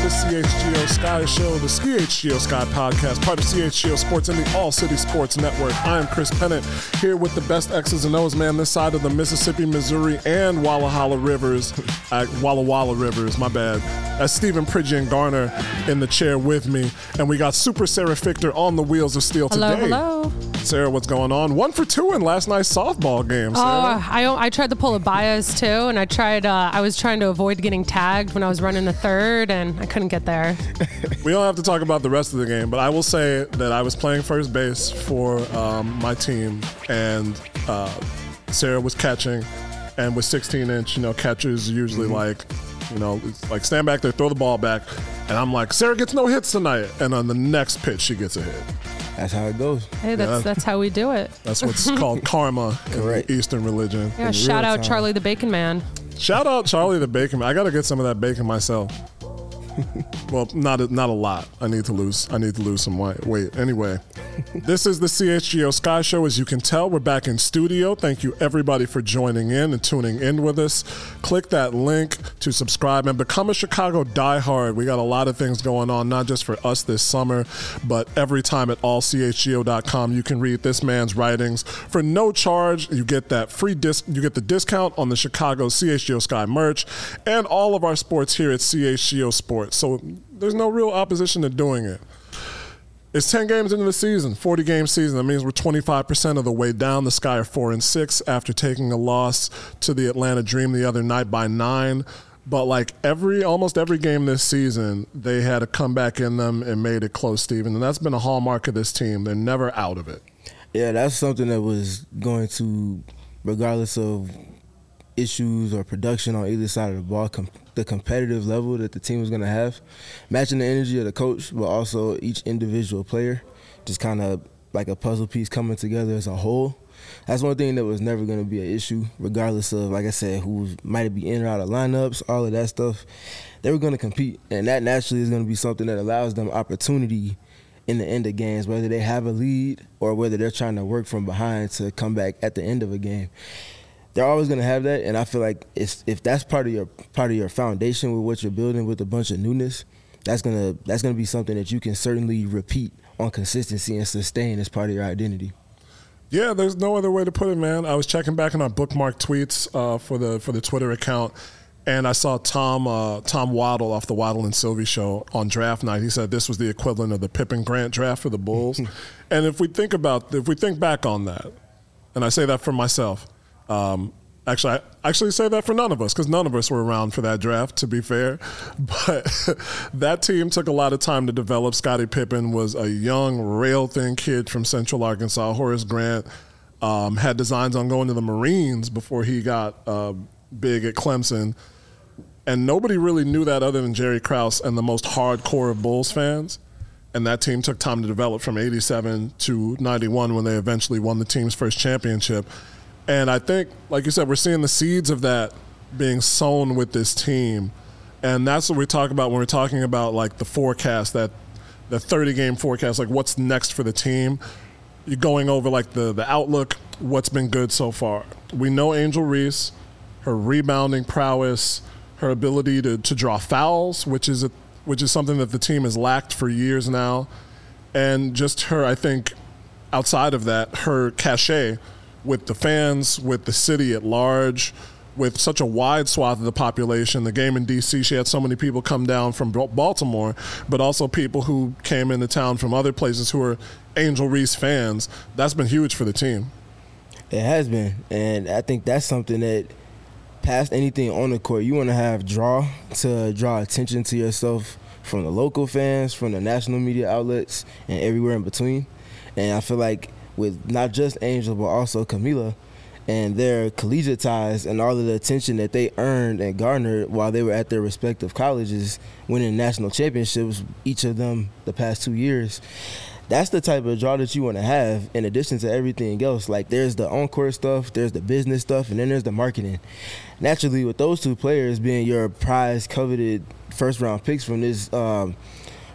CHGO Sky Show, the CHGO Sky Podcast, part of CHGO Sports and the All City Sports Network. I am Chris Pennant, here with the best X's and O's, man, this side of the Mississippi, Missouri, and Walla Rivers. Walla Rivers, my bad. That's Stephen Pridgeon Garner in the chair with me. And we got Super Sarah Fichter on the wheels of steel today. Hello. Sarah, what's going on? 1 for 2 in last night's softball game, Sarah. I tried to pull a bias too, and I was trying to avoid getting tagged when I was running the third, and I couldn't get there. We don't have to talk about the rest of the game, but I will say that I was playing first base for my team, and Sarah was catching, and with 16-inch, catchers usually it's like stand back there, throw the ball back, and I'm like, Sarah gets no hits tonight, and on the next pitch she gets a hit. That's how it goes. Hey, that's how we do it. That's what's called karma in the Eastern religion. Yeah, shout out Charlie the Bacon Man. Shout out Charlie the Bacon Man. I got to get some of that bacon myself. Well, not a lot. I need to lose some weight. Anyway, this is the CHGO Sky Show. As you can tell, we're back in studio. Thank you, everybody, for joining in and tuning in with us. Click that link to subscribe and become a Chicago diehard. We got a lot of things going on, not just for us this summer, but every time at allchgo.com, you can read this man's writings for no charge. You get that free you get the discount on the Chicago CHGO Sky merch and all of our sports here at CHGO Sports. So there's no real opposition to doing it. It's 10 games into the season, 40-game season. That means we're 25% of the way down. The Sky are 4-6 after taking a loss to the Atlanta Dream the other night by 9. But like almost every game this season, they had a comeback in them and made it close, Steven. And that's been a hallmark of this team. They're never out of it. Yeah, that's something that was going to, regardless of issues or production on either side of the ball, the competitive level that the team was going to have, matching the energy of the coach, but also each individual player, just kind of like a puzzle piece coming together as a whole. That's one thing that was never going to be an issue, regardless of, like I said, who might be in or out of lineups, all of that stuff. They were going to compete, and that naturally is going to be something that allows them opportunity in the end of games, whether they have a lead or whether they're trying to work from behind to come back at the end of a game. They're always going to have that, and I feel like if that's part of your foundation with what you're building with a bunch of newness, that's gonna be something that you can certainly repeat on consistency and sustain as part of your identity. Yeah, there's no other way to put it, man. I was checking back on our bookmark tweets for the Twitter account, and I saw Tom Waddle off the Waddle and Sylvie show on draft night. He said this was the equivalent of the Pippen Grant draft for the Bulls. And if we think back on that, and I say that for myself. I actually say that for none of us, because none of us were around for that draft, to be fair. But that team took a lot of time to develop. Scottie Pippen was a young, rail-thin kid from Central Arkansas. Horace Grant had designs on going to the Marines before he got big at Clemson. And nobody really knew that other than Jerry Krause and the most hardcore of Bulls fans. And that team took time to develop from 87 to 91 when they eventually won the team's first championship. And I think, like you said, we're seeing the seeds of that being sown with this team. And that's what we talk about when we're talking about, like, the forecast, the 30-game forecast, like what's next for the team. You're going over, like, the outlook, what's been good so far. We know Angel Reese, her rebounding prowess, her ability to draw fouls, which is something that the team has lacked for years now. And just her, I think, outside of that, her cachet with the fans, with the city at large, with such a wide swath of the population. The game in D.C., she had so many people come down from Baltimore, but also people who came into town from other places who are Angel Reese fans. That's been huge for the team. It has been, and I think that's something that, past anything on the court, you want to have draw attention to yourself from the local fans, from the national media outlets, and everywhere in between. And I feel like with not just Angel, but also Camila and their collegiate ties and all of the attention that they earned and garnered while they were at their respective colleges, winning national championships, each of them the past 2 years. That's the type of draw that you want to have in addition to everything else. Like, there's the on-court stuff, there's the business stuff, and then there's the marketing. Naturally, with those two players being your prize, coveted first-round picks from this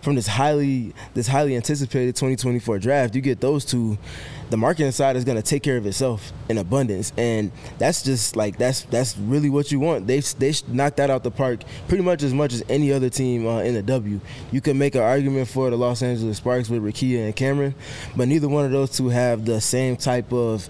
from this highly anticipated 2024 draft, you get those two. The marketing side is going to take care of itself in abundance, and that's just like that's really what you want. They knocked that out the park pretty much as any other team in the W. You can make an argument for the Los Angeles Sparks with Rickea and Cameron, but neither one of those two have the same type of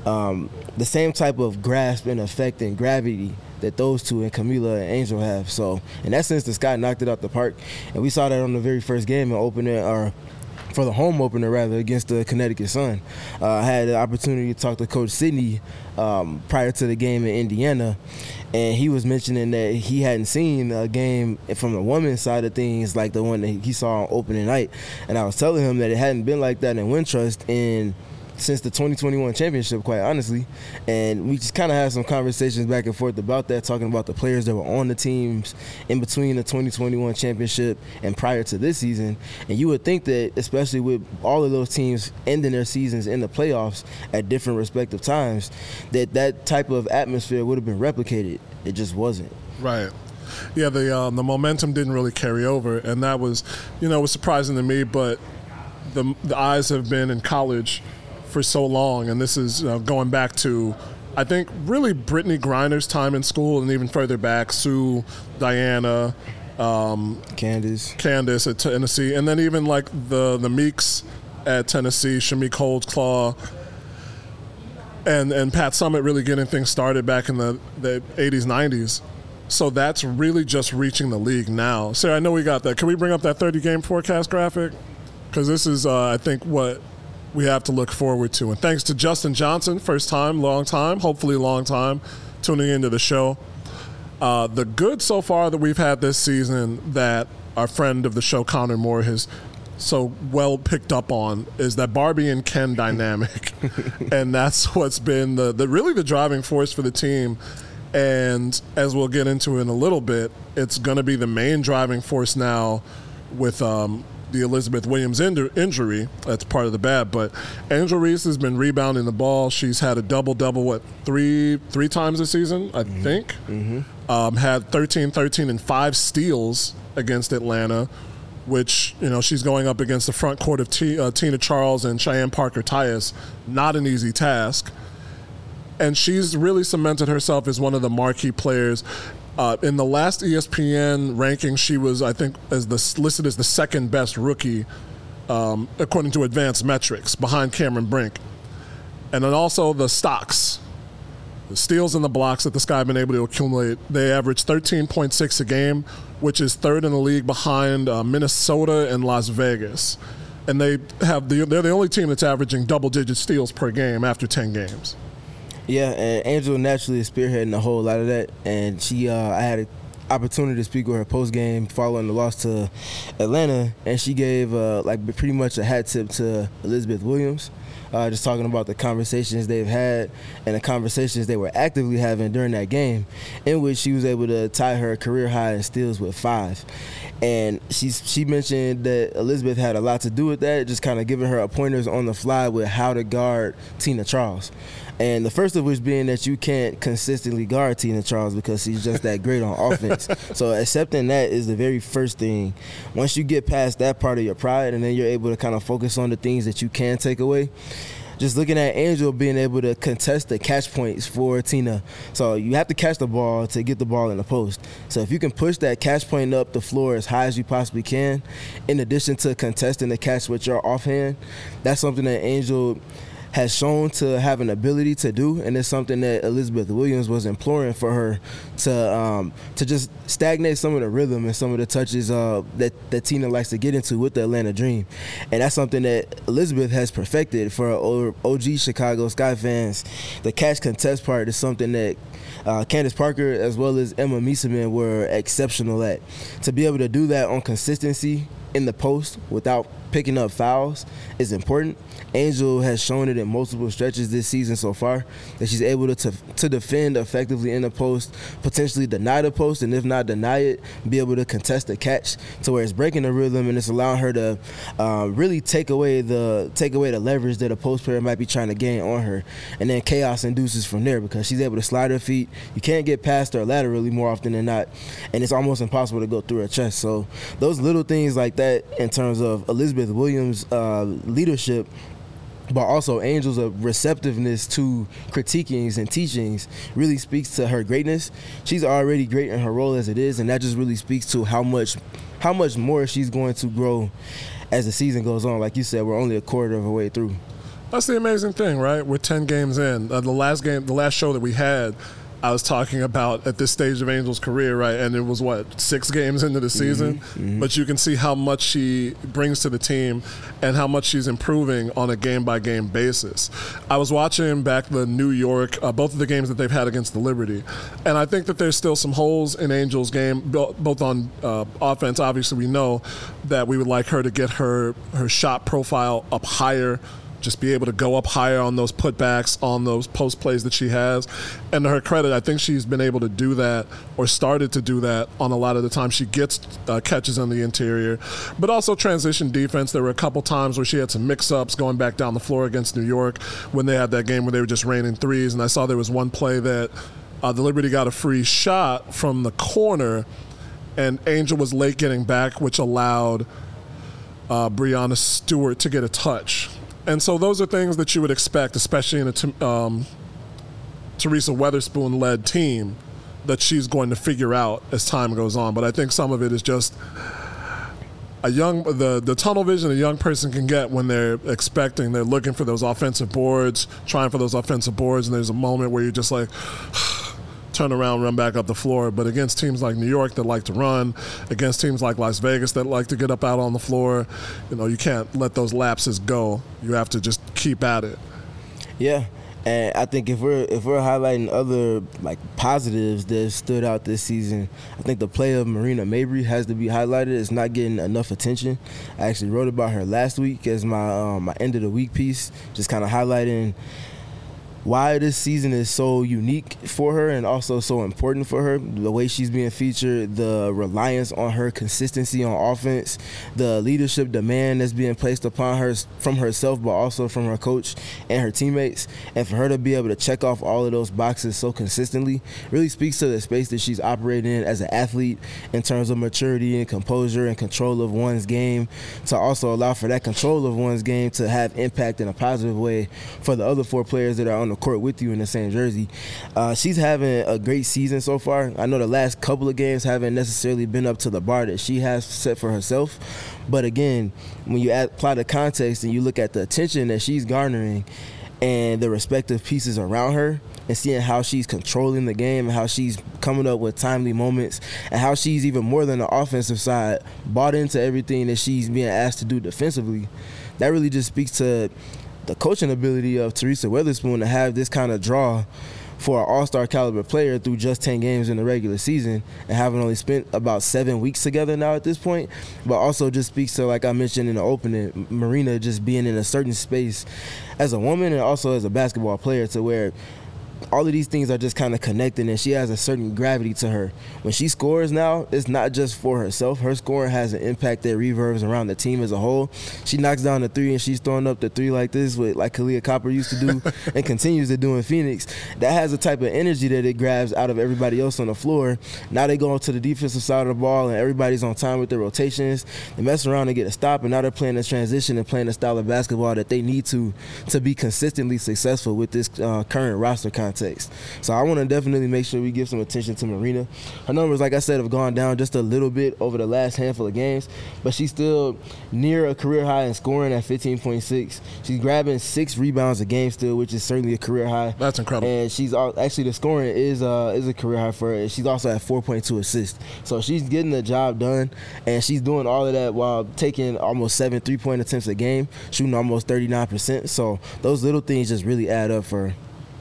grasp and effect and gravity that those two and Camila and Angel have. So in that sense, the Sky knocked it out the park, and we saw that on the very first game and opener, or for the home opener rather, against the Connecticut Sun. I had the opportunity to talk to Coach Sidney prior to the game in Indiana, and he was mentioning that he hadn't seen a game from the women's side of things like the one that he saw on opening night. And I was telling him that it hadn't been like that in Wintrust since the 2021 championship, quite honestly. And we just kind of had some conversations back and forth about that, talking about the players that were on the teams in between the 2021 championship and prior to this season. And you would think that, especially with all of those teams ending their seasons in the playoffs at different respective times, that type of atmosphere would have been replicated. It just wasn't. Right. Yeah, the momentum didn't really carry over, and that was, it was surprising to me, but the eyes have been in college for so long, and this is going back to, I think, really Brittany Griner's time in school, and even further back, Sue, Diana, Candace at Tennessee, and then even like the Meeks at Tennessee, Shamik Holdsclaw, and Pat Summitt really getting things started back in the 80s, 90s. So that's really just reaching the league now. Sarah, I know we got that. Can we bring up that 30-game forecast graphic? Because this is, I think, what we have to look forward to. And thanks to Justin Johnson, first time, long time, hopefully long time, tuning into the show. The good so far that we've had this season that our friend of the show, Connor Moore, has so well picked up on is that Barbie and Ken dynamic. And that's what's been really the driving force for the team. And as we'll get into in a little bit, it's going to be the main driving force now with the Elizabeth Williams injury. That's part of the bad. But Angel Reese has been rebounding the ball. She's had a double-double, three times this season, I think. Mm-hmm. Had 13, and 5 steals against Atlanta, which, she's going up against the front court of Tina Charles and Cheyenne Parker-Tyus. Not an easy task. And she's really cemented herself as one of the marquee players. In the last ESPN ranking, she was, I think, listed as the second best rookie, according to advanced metrics, behind Cameron Brink. And then also the stocks, the steals and the blocks that the Sky have been able to accumulate. They average 13.6 a game, which is third in the league behind Minnesota and Las Vegas. And they're the only team that's averaging double-digit steals per game after 10 games. Yeah, and Angel naturally is spearheading a whole lot of that, and I had an opportunity to speak with her post-game following the loss to Atlanta, and she gave pretty much a hat tip to Elizabeth Williams, just talking about the conversations they've had and the conversations they were actively having during that game, in which she was able to tie her career high in steals with 5. And she mentioned that Elizabeth had a lot to do with that, just kind of giving her pointers on the fly with how to guard Tina Charles. And the first of which being that you can't consistently guard Tina Charles because she's just that great on offense. So accepting that is the very first thing. Once you get past that part of your pride and then you're able to kind of focus on the things that you can take away, just looking at Angel being able to contest the catch points for Tina. So you have to catch the ball to get the ball in the post. So if you can push that catch point up the floor as high as you possibly can, in addition to contesting the catch with your offhand, that's something that Angel has shown to have an ability to do, and it's something that Elizabeth Williams was imploring for her to just stagnate some of the rhythm and some of the touches that Tina likes to get into with the Atlanta Dream. And that's something that Elizabeth has perfected for OG Chicago Sky fans. The catch contest part is something that Candace Parker as well as Emma Mieseman were exceptional at. To be able to do that on consistency in the post without picking up fouls is important. Angel has shown it in multiple stretches this season so far that she's able to defend effectively in the post, potentially deny the post, and if not deny it, be able to contest the catch to where it's breaking the rhythm and it's allowing her to really take away the leverage that a post player might be trying to gain on her. And then chaos induces from there because she's able to slide her feet. You can't get past her laterally more often than not, and it's almost impossible to go through her chest. So those little things like that in terms of Elizabeth Williams' leadership, but also Angel's receptiveness to critiquings and teachings really speaks to her greatness. She's already great in her role as it is, and that just really speaks to how much more she's going to grow as the season goes on. Like you said, we're only a quarter of a way through. That's the amazing thing, right? We're 10 games in. The last show that we had, I was talking about at this stage of Angel's career, right? And it was, 6 games into the season? Mm-hmm. But you can see how much she brings to the team and how much she's improving on a game-by-game basis. I was watching back the New York, both of the games that they've had against the Liberty, and I think that there's still some holes in Angel's game, both on offense. Obviously, we know that we would like her to get her shot profile up higher, just be able to go up higher on those putbacks, on those post plays that she has. And to her credit, I think she's been able to do that or started to do that on a lot of the time she gets catches on the interior. But also transition defense. There were a couple times where she had some mix-ups going back down the floor against New York when they had that game where they were just raining threes. And I saw there was one play that the Liberty got a free shot from the corner, and Angel was late getting back, which allowed Breanna Stewart to get a touch. And so those are things that you would expect, especially in a Teresa Weatherspoon-led team, that she's going to figure out as time goes on. But I think some of it is just the tunnel vision a young person can get when they're looking for those offensive boards, trying for those offensive boards, and there's a moment where you're just like, turn around, run back up the floor. But against teams like New York that like to run, against teams like Las Vegas that like to get up out on the floor, you can't let those lapses go. You have to just keep at it. Yeah. And I think if we're highlighting other positives that stood out this season, I think the play of Marina Mabrey has to be highlighted. It's not getting enough attention. I actually wrote about her last week as my end of the week piece, just kind of highlighting why this season is so unique for her and also so important for her. The way she's being featured, the reliance on her consistency on offense, the leadership demand that's being placed upon her from herself but also from her coach and her teammates. And for her to be able to check off all of those boxes so consistently really speaks to the space that she's operating in as an athlete in terms of maturity and composure and control of one's game, to also allow for that control of one's game to have impact in a positive way for the other 4 players that are on the court with you in the same jersey. She's having a great season so far. I know the last couple of games haven't necessarily been up to the bar that she has set for herself, but again, when you apply the context and you look at the attention that she's garnering and the respective pieces around her, and seeing how she's controlling the game and how she's coming up with timely moments and how she's, even more than the offensive side, bought into everything that she's being asked to do defensively, that really just speaks to the coaching ability of Teresa Weatherspoon to have this kind of draw for an all-star caliber player through just 10 games in the regular season and having only spent about 7 weeks together now at this point. But also just speaks to, like I mentioned in the opening, Marina just being in a certain space as a woman and also as a basketball player, to where all of these things are just kind of connecting, and she has a certain gravity to her. When she scores now, it's not just for herself. Her scoring has an impact that reverbs around the team as a whole. She knocks down the 3 and she's throwing up the 3 like this, like Kalia Copper used to do and continues to do in Phoenix. That has a type of energy that it grabs out of everybody else on the floor. Now they go to the defensive side of the ball and everybody's on time with their rotations. They mess around and get a stop, and now they're playing this transition and playing the style of basketball that they need to be consistently successful with this current roster context. So I want to definitely make sure we give some attention to Marina. Her numbers, like I said, have gone down just a little bit over the last handful of games, but she's still near a career high in scoring at 15.6. She's grabbing 6 rebounds a game still, which is certainly a career high. That's incredible. And she's actually, the scoring is a career high for her. She's also at 4.2 assists. So she's getting the job done, and she's doing all of that while taking almost 7 3-point attempts a game, shooting almost 39%. So those little things just really add up for her.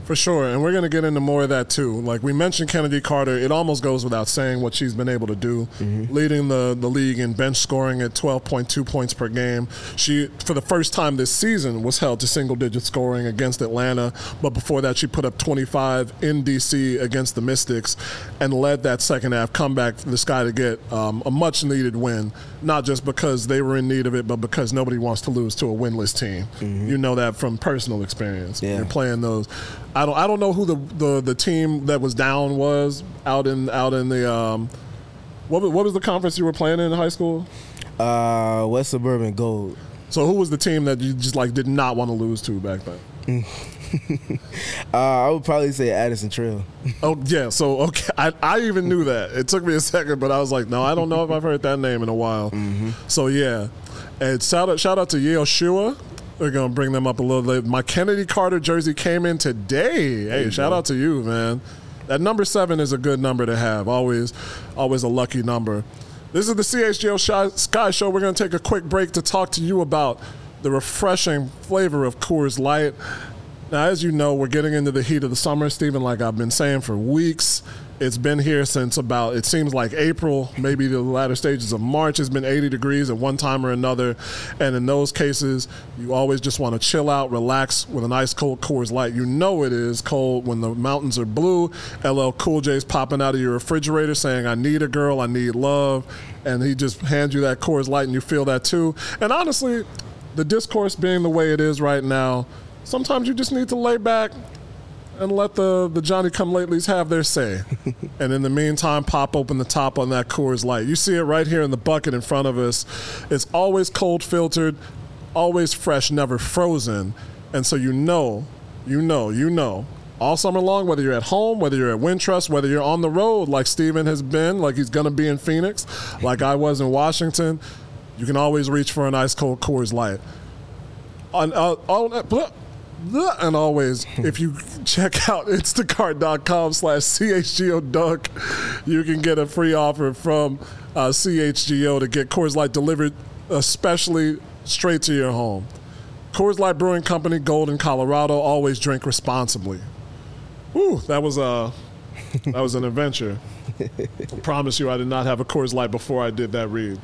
For sure, and we're going to get into more of that too. Like we mentioned Kennedy Carter, it almost goes without saying what she's been able to do, leading the league in bench scoring at 12.2 points per game. She, for the first time this season, was held to single-digit scoring against Atlanta, but before that she put up 25 in D.C. against the Mystics and led that second-half comeback for the Sky to get a much-needed win, not just because they were in need of it, but because nobody wants to lose to a winless team. You know that from personal experience. Yeah. You're playing those. I don't know who the team that was down was out in the what was the conference you were playing in high school? West Suburban Gold. So who was the team that you just like did not want to lose to back then? I would probably say Addison Trail. Oh yeah, so okay, I even knew that. It took me a second, but I was like, no, I don't know if I've heard that name in a while. So yeah, and shout out to Yale Shua. We're going to bring them up a little later. My Kennedy Carter jersey came in today. Hey, shout out to you, man. That number 7 is a good number to have. Always a lucky number. This is the CHGO Sky Show. We're going to take a quick break to talk to you about the refreshing flavor of Coors Light. Now, as you know, we're getting into the heat of the summer, Stephen, like I've been saying for weeks. It's been here since about, it seems like April, maybe the latter stages of March. It's been 80 degrees at one time or another. And in those cases, you always just want to chill out, relax with an ice cold Coors Light. You know it is cold when the mountains are blue. LL Cool J's popping out of your refrigerator saying, I need a girl, I need love. And he just hands you that Coors Light and you feel that too. And honestly, the discourse being the way it is right now, sometimes you just need to lay back and let the Johnny-come-latelys have their say. And in the meantime, pop open the top on that Coors Light. You see it right here in the bucket in front of us. It's always cold filtered, always fresh, never frozen. And so you know, all summer long, whether you're at home, whether you're at Wintrust, whether you're on the road like Steven has been, like he's going to be in Phoenix, like I was in Washington, you can always reach for an ice-cold Coors Light. And always, if you check out instacart.com/CHGO-Dunk, you can get a free offer from CHGO to get Coors Light delivered especially straight to your home. Coors Light Brewing Company, Golden, Colorado. Always drink responsibly. Whew, that was an adventure. I promise you I did not have a Coors Light before I did that read.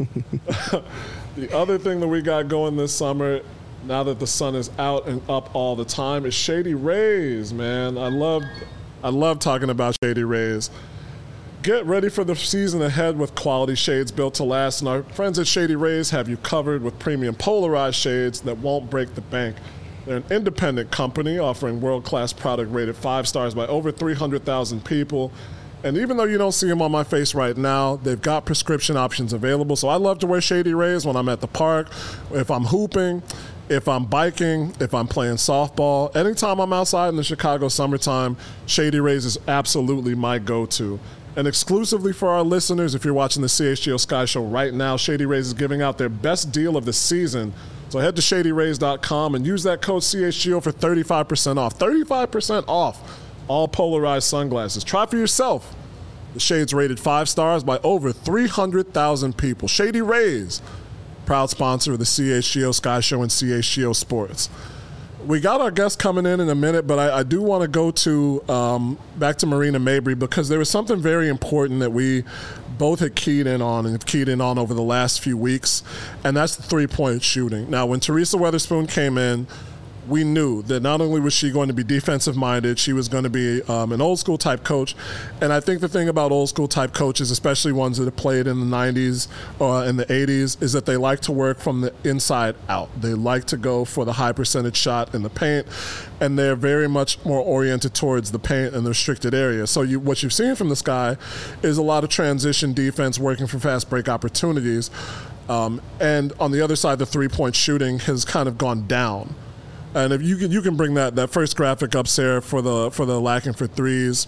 The other thing that we got going this summer, now that the sun is out and up all the time, is Shady Rays, man. I love talking about Shady Rays. Get ready for the season ahead with quality shades built to last, and our friends at Shady Rays have you covered with premium polarized shades that won't break the bank. They're an independent company offering world-class product rated 5 stars by over 300,000 people. And even though you don't see them on my face right now, they've got prescription options available. So I love to wear Shady Rays when I'm at the park, if I'm hooping, if I'm biking, if I'm playing softball. Anytime I'm outside in the Chicago summertime, Shady Rays is absolutely my go-to. And exclusively for our listeners, if you're watching the CHGO Sky Show right now, Shady Rays is giving out their best deal of the season. So head to ShadyRays.com and use that code CHGO for 35% off. 35% off all polarized sunglasses. Try for yourself. The shades rated 5 stars by over 300,000 people. Shady Rays, proud sponsor of the CHGO Sky Show and CHGO Sports. We got our guest coming in a minute, but I do want to go to back to Marina Mabrey because there was something very important that we both had keyed in on and have keyed in on over the last few weeks, and that's the three-point shooting. Now, when Teresa Weatherspoon came in, we knew that not only was she going to be defensive-minded, she was going to be an old-school type coach. And I think the thing about old-school type coaches, especially ones that have played in the 90s or in the 80s, is that they like to work from the inside out. They like to go for the high-percentage shot in the paint, and they're very much more oriented towards the paint and the restricted area. So what you've seen from this guy is a lot of transition defense working for fast break opportunities. And on the other side, the three-point shooting has kind of gone down. And if you can bring that first graphic up, Sarah, for the lacking for threes.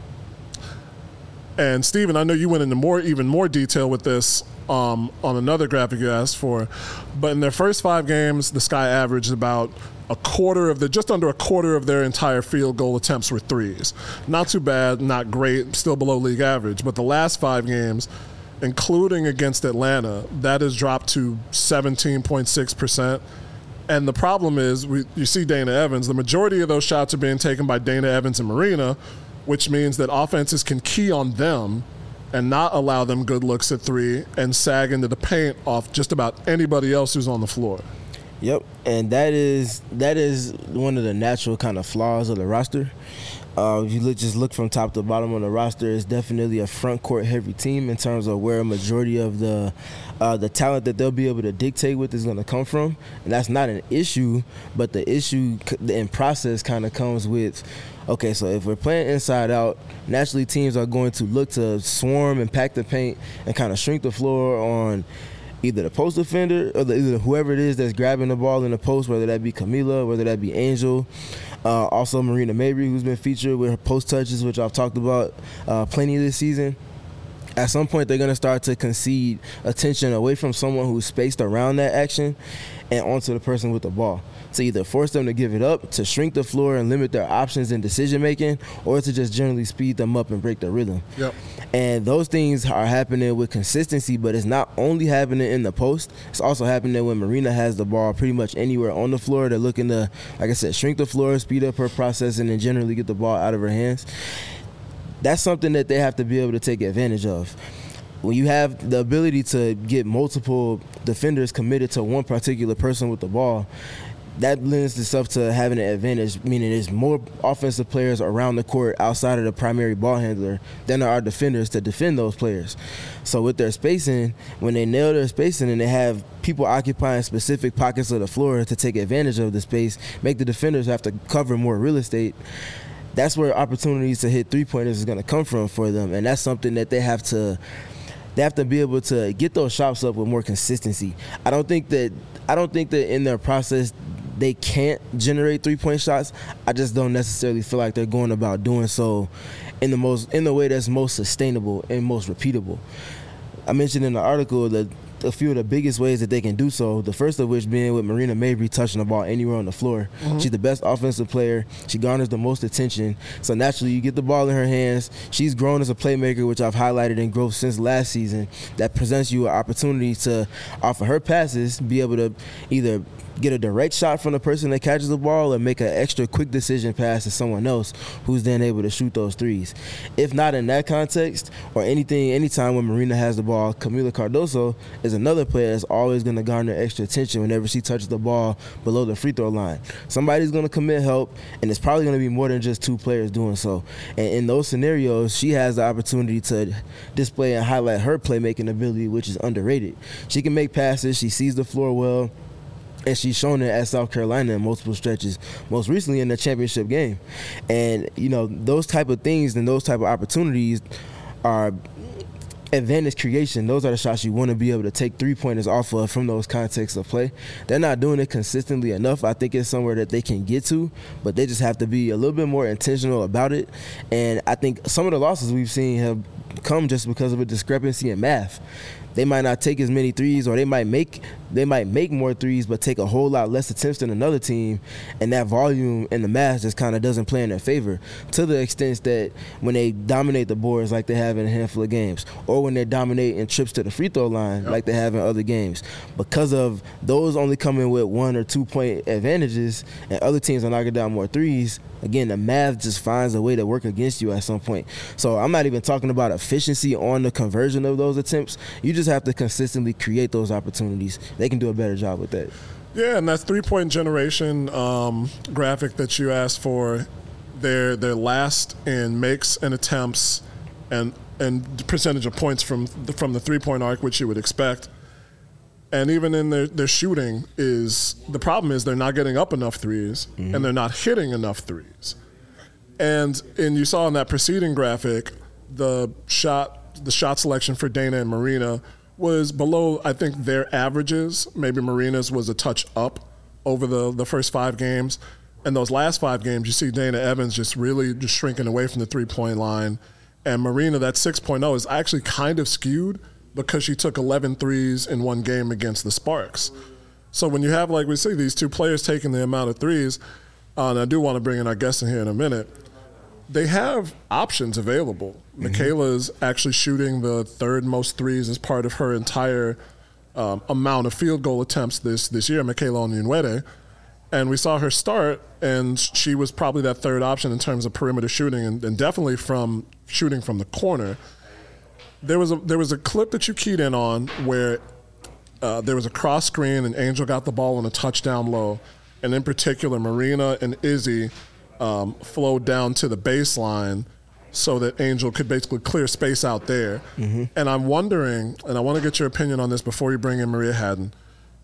And Steven, I know you went into even more detail with this on another graphic you asked for. But in their first 5 games, the Sky averaged about just under a quarter of their entire field goal attempts were threes. Not too bad, not great, still below league average. But the last 5 games, including against Atlanta, that has dropped to 17.6%. And the problem is, you see Dana Evans, the majority of those shots are being taken by Dana Evans and Marina, which means that offenses can key on them and not allow them good looks at three and sag into the paint off just about anybody else who's on the floor. Yep, and that is one of the natural kind of flaws of the roster. If you just look from top to bottom on the roster, it's definitely a front court heavy team in terms of where a majority of the talent that they'll be able to dictate with is going to come from. And that's not an issue, but the issue in process kind of comes with, okay, so if we're playing inside out, naturally teams are going to look to swarm and pack the paint and kind of shrink the floor on either the post defender or either whoever it is that's grabbing the ball in the post, whether that be Camila, whether that be Angel. Also Marina Mabry, who's been featured with her post touches, which I've talked about plenty this season. At some point, they're going to start to concede attention away from someone who's spaced around that action and onto the person with the ball, to either force them to give it up, to shrink the floor and limit their options in decision-making, or to just generally speed them up and break the rhythm. Yep. And those things are happening with consistency, but it's not only happening in the post. It's also happening when Marina has the ball pretty much anywhere on the floor. They're looking to, like I said, shrink the floor, speed up her processing, and generally get the ball out of her hands. That's something that they have to be able to take advantage of. When you have the ability to get multiple defenders committed to one particular person with the ball, that lends itself to having an advantage, meaning there's more offensive players around the court outside of the primary ball handler than there are defenders to defend those players. So with their spacing, when they nail their spacing and they have people occupying specific pockets of the floor to take advantage of the space, make the defenders have to cover more real estate, that's where opportunities to hit three-pointers is going to come from for them. And that's something that they have to be able to get those shots up with more consistency. I don't think that in their process they can't generate three-point shots. I just don't necessarily feel like they're going about doing so in the way that's most sustainable and most repeatable. I mentioned in the article that a few of the biggest ways that they can do so, the first of which being with Marina Mabry touching the ball anywhere on the floor. Mm-hmm. She's the best offensive player. She garners the most attention. So naturally, you get the ball in her hands. She's grown as a playmaker, which I've highlighted in growth since last season. That presents you an opportunity to offer her passes, be able to either get a direct shot from the person that catches the ball or make an extra quick decision pass to someone else who's then able to shoot those threes. If not in that context or anytime when Marina has the ball, Camila Cardoso is another player that's always going to garner extra attention whenever she touches the ball below the free throw line. Somebody's going to commit help, and it's probably going to be more than just two players doing so. And in those scenarios, she has the opportunity to display and highlight her playmaking ability, which is underrated. She can make passes. She sees the floor well. And she's shown it at South Carolina in multiple stretches, most recently in the championship game. And, those type of things and those type of opportunities are advantage creation. Those are the shots you want to be able to take three-pointers off of from those contexts of play. They're not doing it consistently enough. I think it's somewhere that they can get to, but they just have to be a little bit more intentional about it. And I think some of the losses we've seen have come just because of a discrepancy in math. They might not take as many threes, or they might make more threes but take a whole lot less attempts than another team, and that volume and the math just kind of doesn't play in their favor to the extent that when they dominate the boards like they have in a handful of games, or when they dominate in trips to the free throw line like they have in other games. Because of those only coming with 1 or 2 point advantages and other teams are knocking down more threes, again, the math just finds a way to work against you at some point. So I'm not even talking about efficiency on the conversion of those attempts. You just have to consistently create those opportunities. They can do a better job with that. Yeah, and that three-point generation graphic that you asked for, they're last in makes and attempts and percentage of points from the three-point arc, which you would expect. And even in their shooting, the problem is they're not getting up enough threes, mm-hmm. and they're not hitting enough threes. And you saw in that preceding graphic, the shot selection for Dana and Marina was below, I think, their averages. Maybe Marina's was a touch up over the first 5 games. And those last 5 games, you see Dana Evans just shrinking away from the three-point line. And Marina, that 6.0 is actually kind of skewed because she took 11 threes in one game against the Sparks. So when you have, like we see, these two players taking the amount of threes, and I do want to bring in our guest in here in a minute, they have options available. Mm-hmm. Michaela's actually shooting the 3rd most threes as part of her entire amount of field goal attempts this year, Michaela Onyenwere. And we saw her start, and she was probably that third option in terms of perimeter shooting, and definitely from shooting from the corner. There was a clip that you keyed in on where there was a cross screen, and Angel got the ball on a touchdown low, and in particular, Marina and Izzy flowed down to the baseline so that Angel could basically clear space out there. Mm-hmm. And I'm wondering, and I want to get your opinion on this before you bring in Maria Hadden,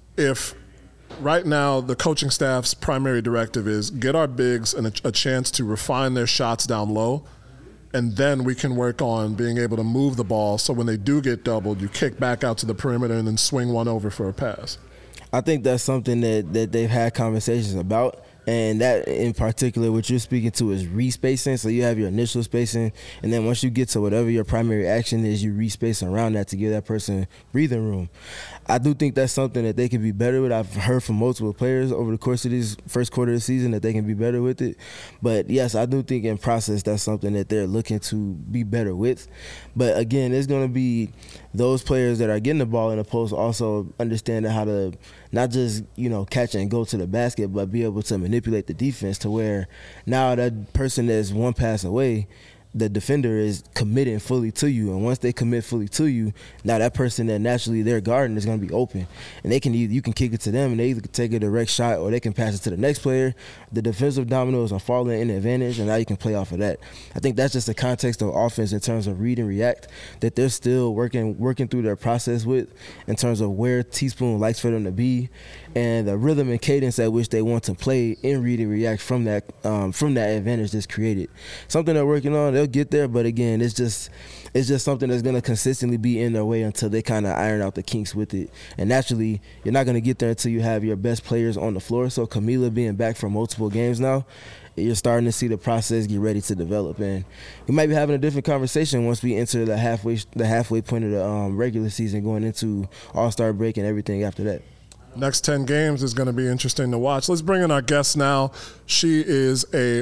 if right now the coaching staff's primary directive is get our bigs a chance to refine their shots down low, and then we can work on being able to move the ball so when they do get doubled, you kick back out to the perimeter and then swing one over for a pass. I think that's something that they've had conversations about. And that in particular, what you're speaking to is respacing. So you have your initial spacing, and then once you get to whatever your primary action is, you respace around that to give that person breathing room. I do think that's something that they can be better with. I've heard from multiple players over the course of this first quarter of the season that they can be better with it. But yes, I do think in process that's something that they're looking to be better with. But again, it's going to be those players that are getting the ball in the post also understanding how to not just, catch and go to the basket, but be able to manipulate the defense to where now that person that's one pass away, the defender is committing fully to you. And once they commit fully to you, now that person that naturally they're guarding is going to be open. And you can kick it to them, and they either can take a direct shot or they can pass it to the next player. The defensive dominoes are falling in advantage, and now you can play off of that. I think that's just the context of offense in terms of read and react that they're still working through their process with in terms of where Teaspoon likes for them to be and the rhythm and cadence at which they want to play in read and react from that advantage that's created. Something they're working on. They'll get there, but again, it's just something that's going to consistently be in their way until they kind of iron out the kinks with it. And naturally, you're not going to get there until you have your best players on the floor. So Camila being back for multiple games now, you're starting to see the process get ready to develop. And we might be having a different conversation once we enter the halfway point of the regular season, going into All-Star break and everything after that. Next 10 games is going to be interesting to watch. Let's bring in our guest now. She is a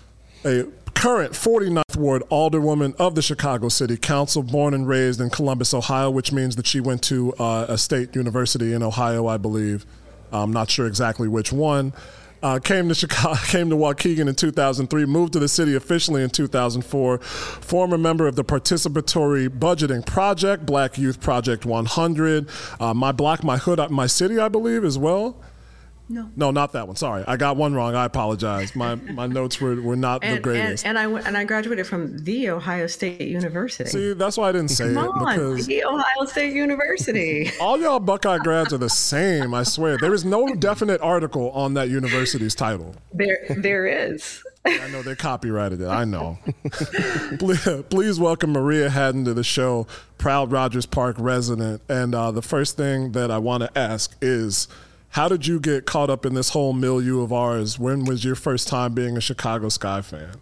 current 49th Ward Alderwoman of the Chicago City Council, born and raised in Columbus, Ohio, which means that she went to a state university in Ohio, I believe. I'm not sure exactly which one. Came to Waukegan in 2003, moved to the city officially in 2004, former member of the Participatory Budgeting Project, Black Youth Project 100, My Block, My Hood, My City, I believe, as well. No, not that one. Sorry, I got one wrong. I apologize. My notes were not the greatest. And I graduated from the Ohio State University. See, that's why I didn't say it. Because the Ohio State University. All y'all Buckeye grads are the same. I swear. There is no definite article on that university's title. There is. I know they copyrighted it. I know. Please welcome Maria Hadden to the show, proud Rogers Park resident. And the first thing that I want to ask is, how did you get caught up in this whole milieu of ours? When was your first time being a Chicago Sky fan?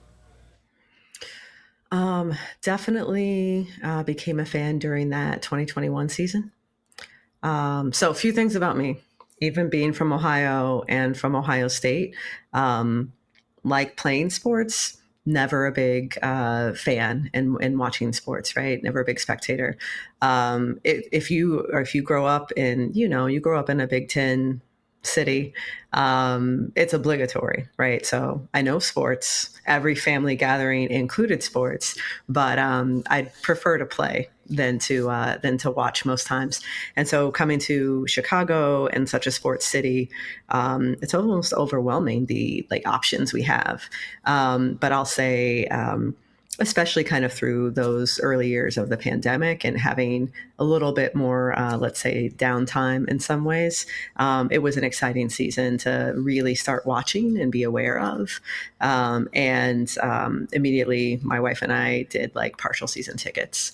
Definitely became a fan during that 2021 season. So a few things about me, even being from Ohio and from Ohio State, like playing sports, never a big fan in watching sports, right? Never a big spectator. If you grow up in, you grow up in a Big Ten city, it's obligatory, right? So I know sports. Every family gathering included sports, but I prefer to play than to watch most times. And so coming to Chicago and such a sports city, it's almost overwhelming the options we have. But I'll say, especially kind of through those early years of the pandemic and having a little bit more, let's say, downtime in some ways, it was an exciting season to really start watching and be aware of. And immediately my wife and I did partial season tickets.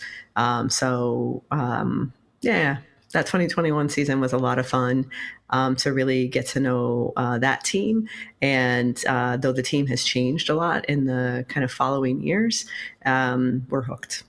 That 2021 season was a lot of fun to really get to know that team. And though the team has changed a lot in the kind of following years, we're hooked.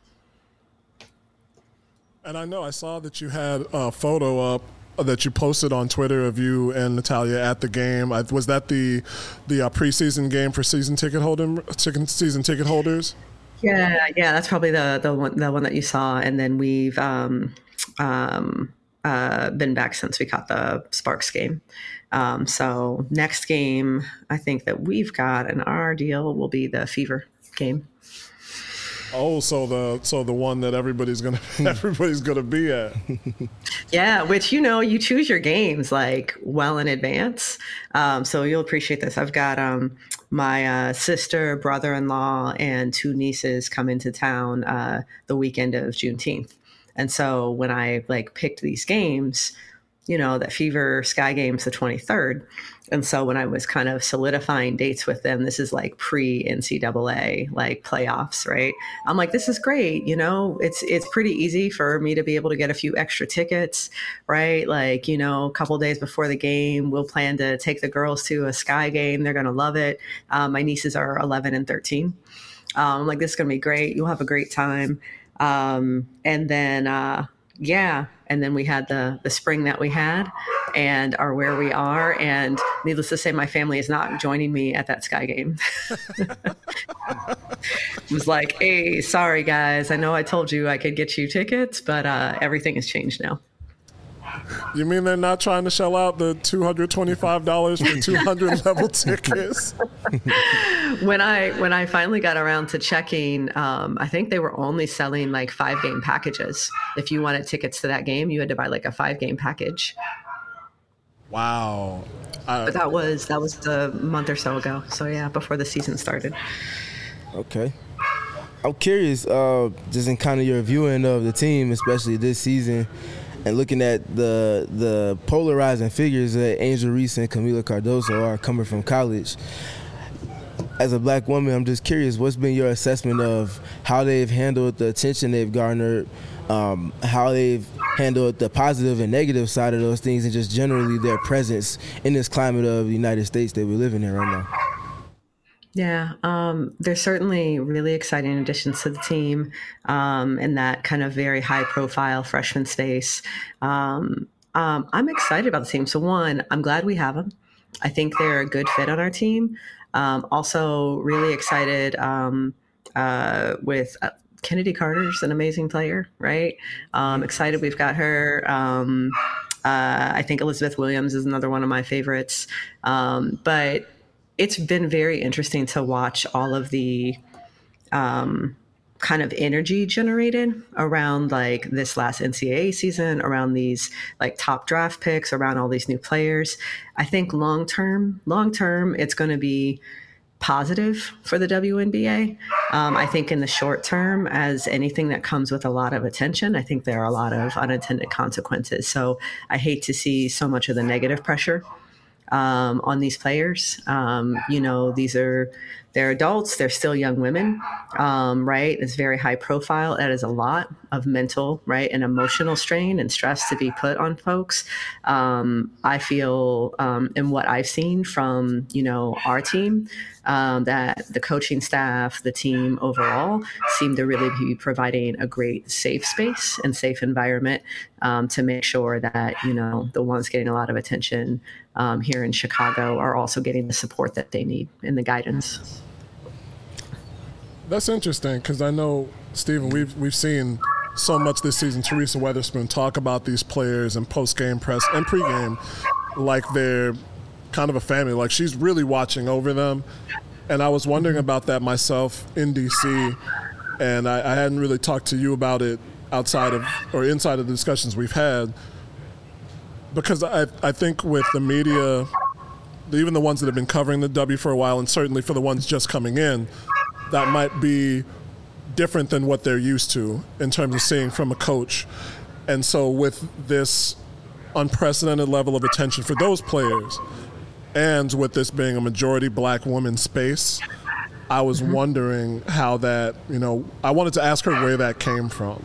And I know I saw that you had a photo up that you posted on Twitter of you and Natalia at the game. Was that the preseason game for season ticket holders? Yeah, that's probably the one that you saw. And then we've been back since we caught the Sparks game. So next game, I think that we've got in our deal will be the Fever game. Oh, so the one that everybody's gonna be at. Yeah, which you choose your games like well in advance, so you'll appreciate this. I've got my sister, brother-in-law, and 2 nieces come into town the weekend of Juneteenth, and so when I picked these games, that Fever Sky game's the 23rd. And so when I was kind of solidifying dates with them, this is pre-NCAA playoffs, right? I'm like, this is great. It's pretty easy for me to be able to get a few extra tickets, right? A couple days before the game, we'll plan to take the girls to a Sky game. They're going to love it. My nieces are 11 and 13. I'm like, this is going to be great. You'll have a great time. And then we had the spring that we had and are where we are. And needless to say, my family is not joining me at that Sky game. It was like, hey, sorry, guys. I know I told you I could get you tickets, but everything has changed now. You mean they're not trying to shell out the $225 for 200 level tickets? When I finally got around to checking, I think they were only selling 5-game packages. If you wanted tickets to that game, you had to buy a 5-game package. Wow. But that was a month or so ago. So yeah, before the season started. Okay. I'm curious, just in kind of your viewing of the team, especially this season, and looking at the polarizing figures that Angel Reese and Kamilla Cardoso are coming from college. As a black woman, I'm just curious, what's been your assessment of how they've handled the attention they've garnered, how they've handled the positive and negative side of those things, and just generally their presence in this climate of the United States that we're living in right now? Yeah, there's certainly really exciting additions to the team in that kind of very high-profile freshman space. I'm excited about the team. So one, I'm glad we have them. I think they're a good fit on our team. Also, really excited with Kennedy Carter's an amazing player, right? Excited we've got her. I think Elizabeth Williams is another one of my favorites. But it's been very interesting to watch all of the kind of energy generated around this last NCAA season, around these top draft picks, around all these new players. I think long term, it's going to be positive for the WNBA. I think in the short term, as anything that comes with a lot of attention, I think there are a lot of unintended consequences. So I hate to see so much of the negative pressure on these players. They're adults, they're still young women, right? It's very high profile. That is a lot of mental, right, and emotional strain and stress to be put on folks. I feel in what I've seen from, our team, that the coaching staff, the team overall seem to really be providing a great safe space and safe environment to make sure that, the ones getting a lot of attention here in Chicago are also getting the support that they need and the guidance. That's interesting because I know, Stephen, we've seen so much this season. Teresa Weatherspoon talk about these players in post-game press and pre-game like they're kind of a family. Like she's really watching over them. And I was wondering about that myself in D.C., and I hadn't really talked to you about it outside of or inside of the discussions we've had, because I think with the media, even the ones that have been covering the W for a while, and certainly for the ones just coming in, that might be different than what they're used to in terms of seeing from a coach. And so with this unprecedented level of attention for those players, and with this being a majority black woman space, I was wondering how that, I wanted to ask her where that came from.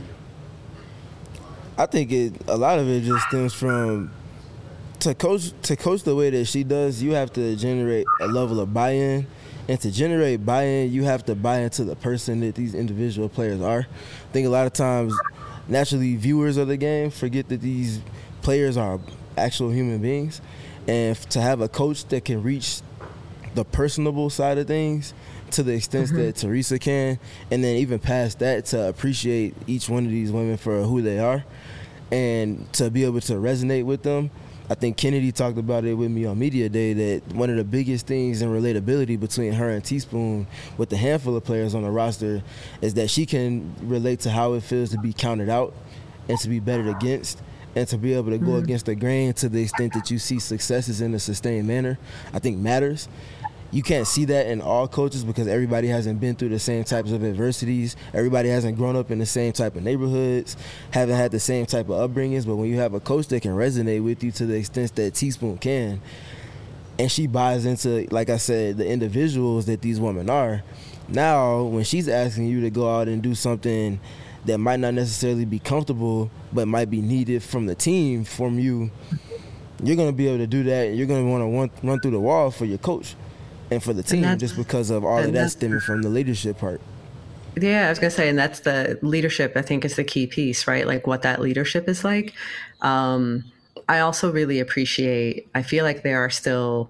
I think a lot of it just stems from to coach the way that she does, you have to generate a level of buy-in. And to generate buy-in, you have to buy into the person that these individual players are. I think a lot of times, naturally, viewers of the game forget that these players are actual human beings. And to have a coach that can reach the personable side of things to the extent that Teresa can, and then even past that, to appreciate each one of these women for who they are, and to be able to resonate with them. I think Kennedy talked about it with me on Media Day, that one of the biggest things in relatability between her and Teaspoon with the handful of players on the roster is that she can relate to how it feels to be counted out and to be betted against, and to be able to go against the grain to the extent that you see successes in a sustained manner, I think matters. You can't see that in all coaches because everybody hasn't been through the same types of adversities. Everybody hasn't grown up in the same type of neighborhoods, haven't had the same type of upbringings. But when you have a coach that can resonate with you to the extent that Teaspoon can, and she buys into, like I said, the individuals that these women are, now when she's asking you to go out and do something that might not necessarily be comfortable but might be needed from the team, from you, you're going to be able to do that. And you're going to want to run through the wall for your coach and for the team, just because of all of that stemming from the leadership part. Yeah, I was going to say, and that's the leadership, I think, is the key piece, right? Like what that leadership is like. I also really appreciate, I feel like there's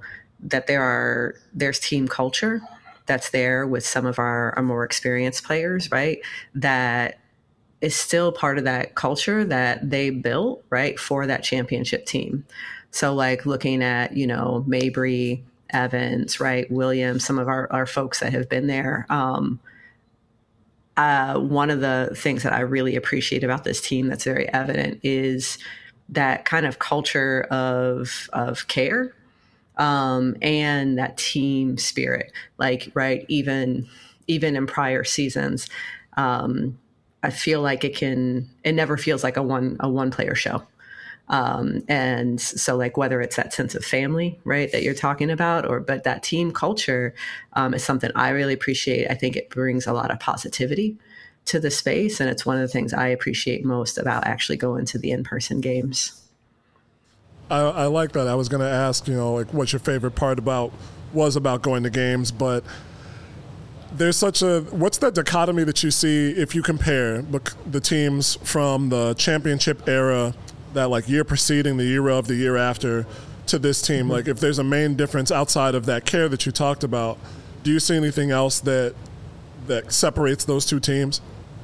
team culture that's there with some of our more experienced players, right? That is still part of that culture that they built, right, for that championship team. So like looking at, Mabry, Evans, right, Williams, some of our folks that have been there. One of the things that I really appreciate about this team that's very evident is that kind of culture of care, and that team spirit. Like, right, even in prior seasons, I feel like it never feels like a one player show. And so like whether it's that sense of family, right, that you're talking about, but that team culture is something I really appreciate. I think it brings a lot of positivity to the space. And it's one of the things I appreciate most about actually going to the in-person games. I like that. I was going to ask, like what your favorite part was about going to games, but there's what's that dichotomy that you see if you compare the teams from the championship era, that like year preceding, the year of, the year after, to this team? Mm-hmm. Like if there's a main difference outside of that care that you talked about, do you see anything else that separates those two teams?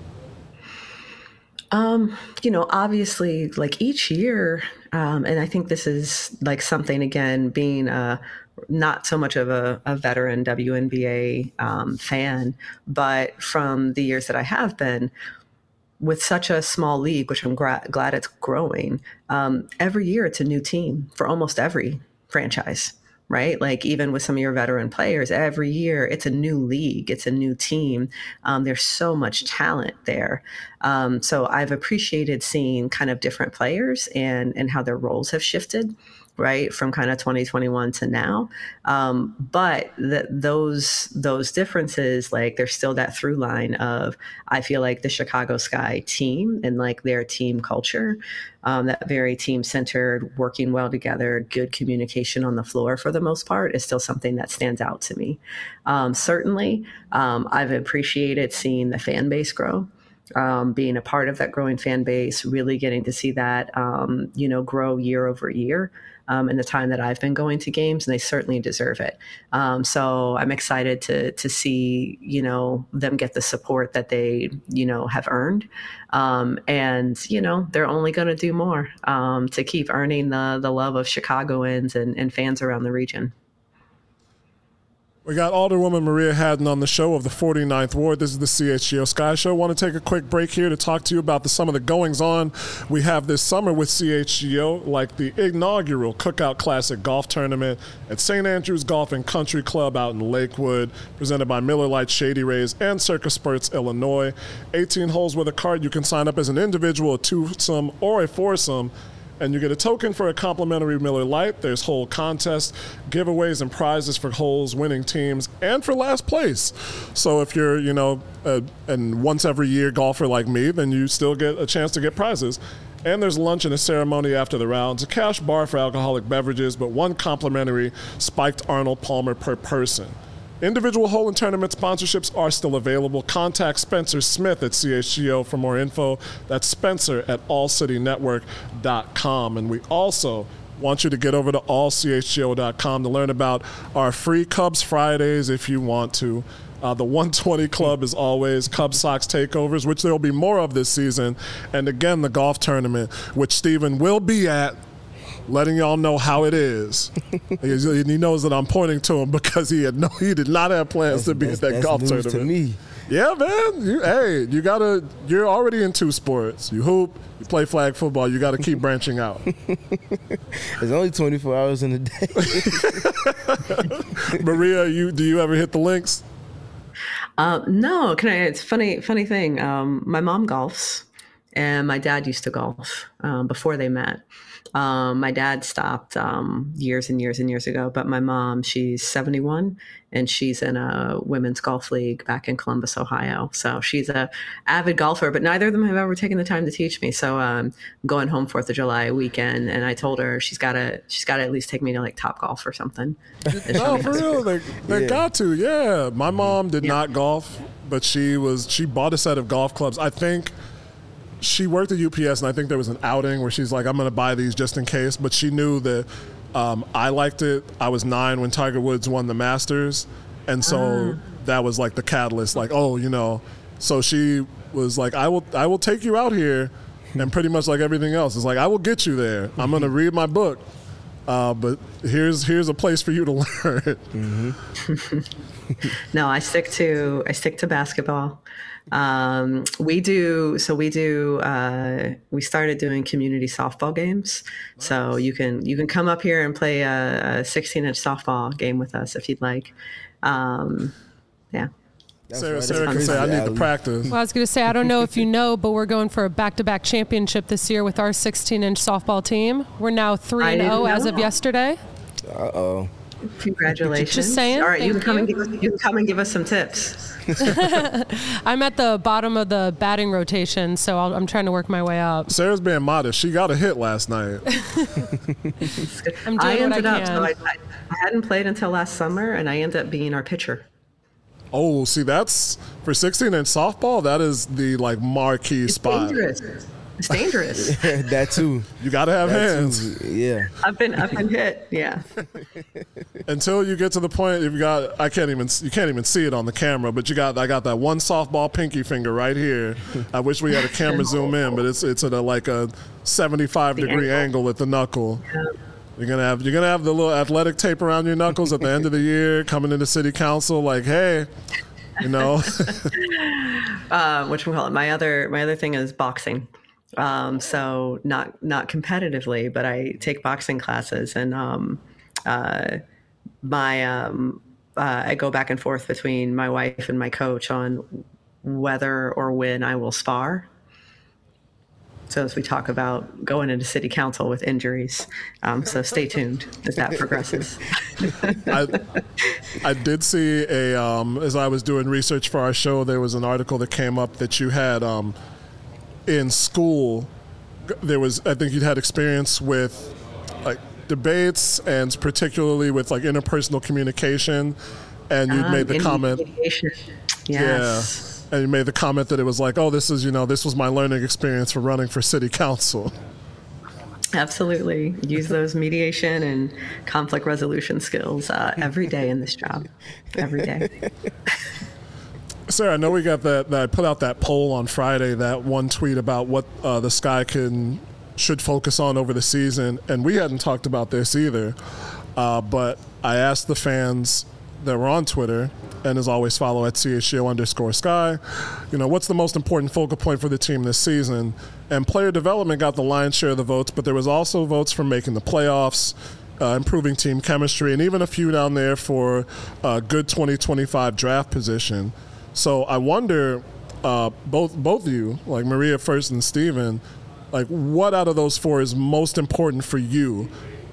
Obviously like each year, and I think this is like something, again, being not so much of a veteran WNBA fan, but from the years that I have been, with such a small league, which I'm glad it's growing, every year it's a new team for almost every franchise, right? Like even with some of your veteran players, every year it's a new league, it's a new team. There's so much talent there. So I've appreciated seeing kind of different players and how their roles have shifted, right, from kind of 2021 to now. But those differences, like there's still that through line of, I feel like the Chicago Sky team and like their team culture, that very team-centered, working well together, good communication on the floor for the most part, is still something that stands out to me. Certainly, I've appreciated seeing the fan base grow. Being a part of that growing fan base, really getting to see that, grow year over year in the time that I've been going to games, and they certainly deserve it. So I'm excited to see, them get the support that they, have earned. And, they're only going to do more to keep earning the love of Chicagoans and fans around the region. We got Alderwoman Maria Hadden on the show of the 49th Ward. This is the CHGO Sky Show. I want to take a quick break here to talk to you about some of the goings-on we have this summer with CHGO, like the inaugural Cookout Classic Golf Tournament at St. Andrews Golf and Country Club out in Lakewood, presented by Miller Lite Shady Rays and Circus Spurts, Illinois. 18 holes with a card. You can sign up as an individual, a twosome, or a foursome, and you get a token for a complimentary Miller Lite. There's whole contests, giveaways, and prizes for holes, winning teams, and for last place. So if you're, and once every year golfer like me, then you still get a chance to get prizes. And there's lunch and a ceremony after the rounds, a cash bar for alcoholic beverages, but one complimentary spiked Arnold Palmer per person. Individual hole and tournament sponsorships are still available. Contact Spencer Smith at CHGO for more info. That's Spencer at allcitynetwork.com. And we also want you to get over to allchgo.com to learn about our free Cubs Fridays if you want to. The 120 Club is always Cub Sox takeovers, which there will be more of this season. And again, the golf tournament, which Steven will be at, letting y'all know how it is. He knows that I'm pointing to him because he did not have plans to be at that golf tournament. To me. Yeah, man. You're already in two sports. You hoop, you play flag football. You got to keep branching out. There's only 24 hours in a day. Maria, do you ever hit the links? No. It's funny thing. My mom golfs, and my dad used to golf before they met. My dad stopped years and years and years ago, but my mom, she's 71 and she's in a women's golf league back in Columbus, Ohio. So she's a avid golfer, but neither of them have ever taken the time to teach me. So I'm going home 4th of July weekend, and I told her she's got to at least take me to like Top Golf or something. No, for real, they got to. Yeah, my mom did not golf, but she bought a set of golf clubs. I think. She worked at UPS, and I think there was an outing where she's like, I'm going to buy these just in case. But she knew that I liked it. I was 9 when Tiger Woods won the Masters. And so that was like the catalyst. Like, so she was like, I will take you out here. And pretty much like everything else, it's like, I will get you there. I'm going to read my book. But here's a place for you to learn. Mm-hmm. No, I stick to basketball. We started doing community softball games. So you can come up here and play a 16-inch softball game with us if you'd like. Yeah. Sarah can say, I need to practice. Well, I was going to say, I don't know if you know, but we're going for a back-to-back championship this year with our 16-inch softball team. We're now 3-0 as of yesterday. Uh-oh. Congratulations. Just saying. All right, you can come and give us some tips. I'm at the bottom of the batting rotation, so I'm trying to work my way up. Sarah's being modest. She got a hit last night. I'm doing what I can. So I hadn't played until last summer, and I ended up being our pitcher. Oh, see, that's for 16-inch softball. That is the marquee spot. It's dangerous. That too. You got to have hands. Too. Yeah. I've been hit. Yeah. Until you get to the point, you can't even see it on the camera, but I got that one softball pinky finger right here. I wish we had a camera zoom in, but it's at a 75-degree angle at the knuckle. Yeah. You're gonna have the little athletic tape around your knuckles at the end of the year, coming into city council, like, hey, whatchamacallit. My other thing is boxing. So not competitively, but I take boxing classes, and I go back and forth between my wife and my coach on whether or when I will spar. So as we talk about going into city council with injuries, so stay tuned as that progresses. I did see as I was doing research for our show, there was an article that came up that you had in school. I think you'd had experience with debates, and particularly with interpersonal communication, and you'd made the comment. Yes. Yeah. And you made the comment that it was this was my learning experience for running for city council. Absolutely. Use those mediation and conflict resolution skills every day in this job. Every day. Sarah, I know we got that I put out that poll on Friday, that one tweet about what the Sky should focus on over the season, and we hadn't talked about this either. But I asked the fans that were on Twitter, and as always, follow at @CHGO_Sky. What's the most important focal point for the team this season? And player development got the lion's share of the votes, but there was also votes for making the playoffs, improving team chemistry, and even a few down there for a good 2025 draft position. So I wonder, both of you, Maria first and Steven, what out of those four is most important for you?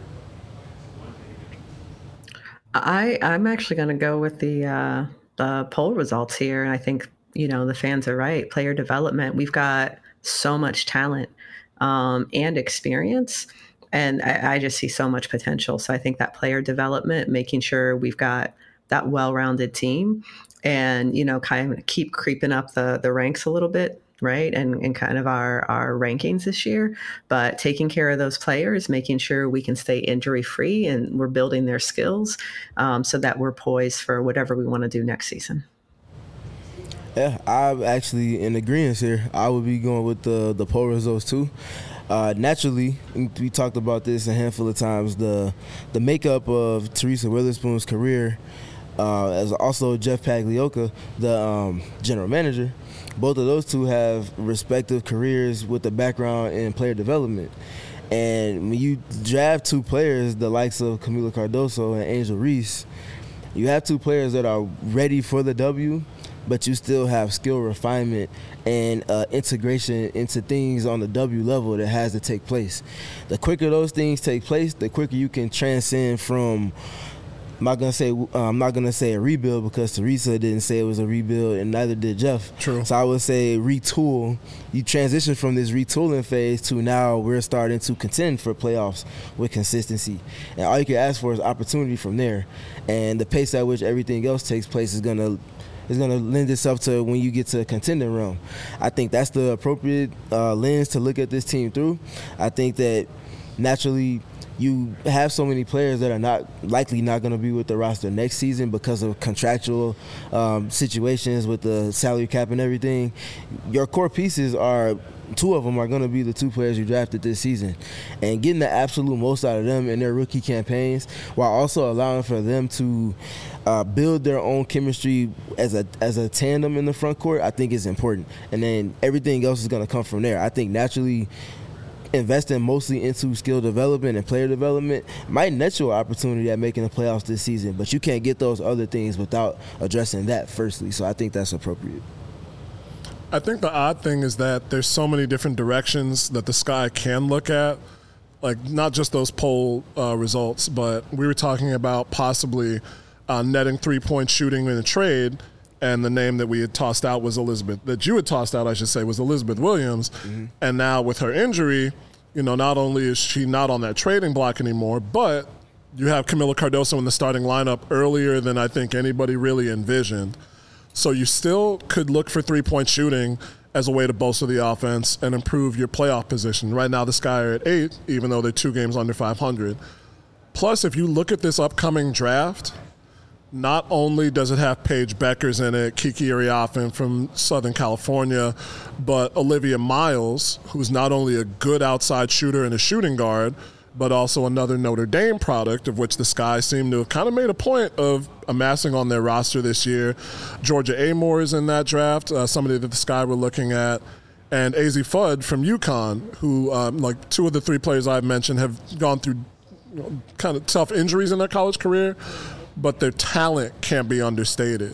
I'm actually going to go with the poll results here. And I think, the fans are right. Player development, we've got so much talent and experience. And I just see so much potential. So I think that player development, making sure we've got that well-rounded team and, kind of keep creeping up the ranks a little bit. Right. And kind of our rankings this year, but taking care of those players, making sure we can stay injury free and we're building their skills so that we're poised for whatever we want to do next season. Yeah, I'm actually in agreement here. I would be going with the poll results too. Naturally, we talked about this a handful of times, the makeup of Teresa Witherspoon's career, as also Jeff Pagliocca, the general manager. Both of those two have respective careers with a background in player development. And when you draft two players, the likes of Kamilla Cardoso and Angel Reese, you have two players that are ready for the W, but you still have skill refinement and integration into things on the W level that has to take place. The quicker those things take place, the quicker you can transcend from, I'm not gonna say a rebuild because Teresa didn't say it was a rebuild and neither did Jeff. True. So I would say retool. You transition from this retooling phase to now we're starting to contend for playoffs with consistency. And all you can ask for is opportunity from there. And the pace at which everything else takes place is gonna lend itself to when you get to a contending realm. I think that's the appropriate lens to look at this team through. I think that naturally you have so many players that are not going to be with the roster next season because of contractual situations with the salary cap and everything. Your core pieces are, two of them are going to be the two players you drafted this season. And getting the absolute most out of them in their rookie campaigns while also allowing for them to build their own chemistry as a tandem in the front court, I think is important. And then everything else is going to come from there. I think naturally investing mostly into skill development and player development might net you an opportunity at making the playoffs this season, but you can't get those other things without addressing that firstly. So I think that's appropriate. I think the odd thing is that there's so many different directions that the Sky can look at, like not just those poll results, but we were talking about possibly netting three-point shooting in a trade, and the name that we had tossed out was that you had tossed out, I should say, was Elizabeth Williams. Mm-hmm. And now with her injury, not only is she not on that trading block anymore, but you have Kamilla Cardoso in the starting lineup earlier than I think anybody really envisioned. So you still could look for three-point shooting as a way to bolster the offense and improve your playoff position. Right now the Sky are at 8, even though they're 2 games under 500. Plus, if you look at this upcoming draft, not only does it have Paige Beckers in it, Kiki Ariafen from Southern California, but Olivia Miles, who's not only a good outside shooter and a shooting guard, but also another Notre Dame product, of which the Sky seem to have kind of made a point of amassing on their roster this year. Georgia Amore is in that draft, somebody that the Sky were looking at. And Azzi Fudd from UConn, who, like two of the 3 players I've mentioned, have gone through kind of tough injuries in their college career, but their talent can't be understated.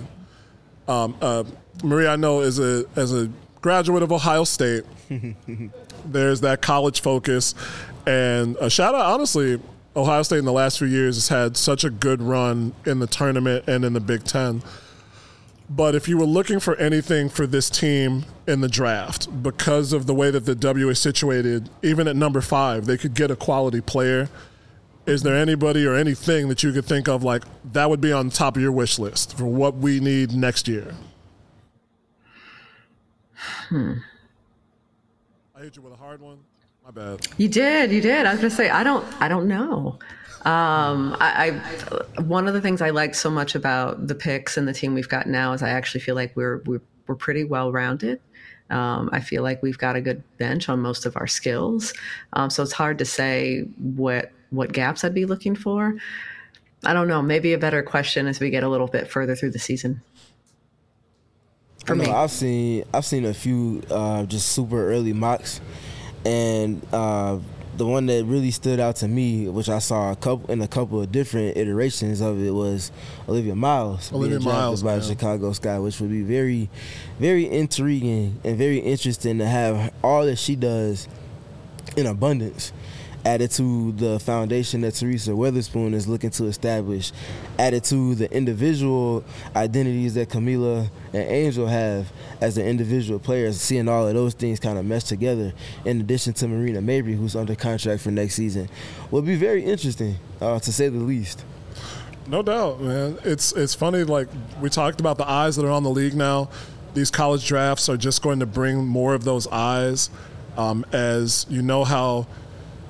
Maria, I know, as a graduate of Ohio State, there's that college focus. And a shout out, honestly, Ohio State in the last few years has had such a good run in the tournament and in the Big Ten. But if you were looking for anything for this team in the draft, because of the way that the W is situated, even at number 5, they could get a quality player. Is there anybody or anything that you could think of like that would be on top of your wish list for what we need next year? I hit you with a hard one. My bad. You did. I was going to say, I don't know. I one of the things I like so much about the picks and the team we've got now is I actually feel like we're pretty well rounded. I feel like we've got a good bench on most of our skills. So it's hard to say what gaps I'd be looking for. I don't know. Maybe a better question as we get a little bit further through the season. I've seen a few just super early mocks, and the one that really stood out to me, which I saw in a couple of different iterations of it, was Olivia Miles. Olivia Miles by the Chicago Sky, which would be very, very intriguing and very interesting to have all that she does in abundance added to the foundation that Teresa Witherspoon is looking to establish, added to the individual identities that Kamilla and Angel have as the individual players, seeing all of those things kind of mesh together, in addition to Marina Mabry, who's under contract for next season, will be very interesting, to say the least. No doubt, man. It's funny, like we talked about the eyes that are on the league now. These college drafts are just going to bring more of those eyes, as you know how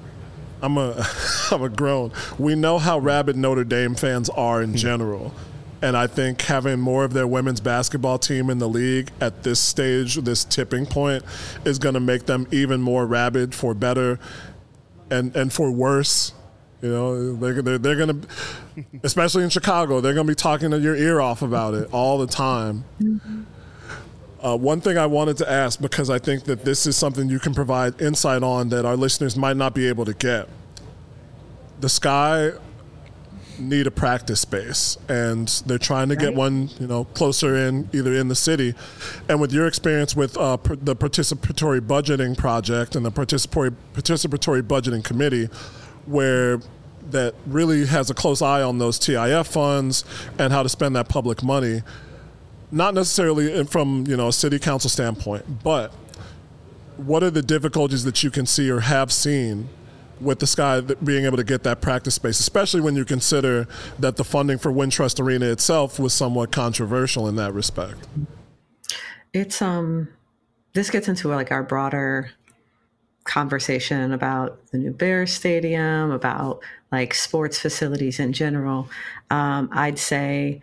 I'm a grown. We know how rabid Notre Dame fans are in general. And I think having more of their women's basketball team in the league at this stage, this tipping point, is going to make them even more rabid for better and for worse. You know, they're going to, especially in Chicago, they're going to be talking your ear off about it all the time. One thing I wanted to ask, because I think that this is something you can provide insight on that our listeners might not be able to get. The Sky need a practice space, and they're trying to get one, you know, closer in, either in the city. And with your experience with the participatory budgeting project and the participatory budgeting committee, where that really has a close eye on those TIF funds and how to spend that public money, not necessarily from, you know, a city council standpoint, but what are the difficulties that you can see or have seen with the Sky being able to get that practice space, especially when you consider that the funding for Wintrust Arena itself was somewhat controversial in that respect? It's this gets into like our broader conversation about the new Bears Stadium, about like sports facilities in general. I'd say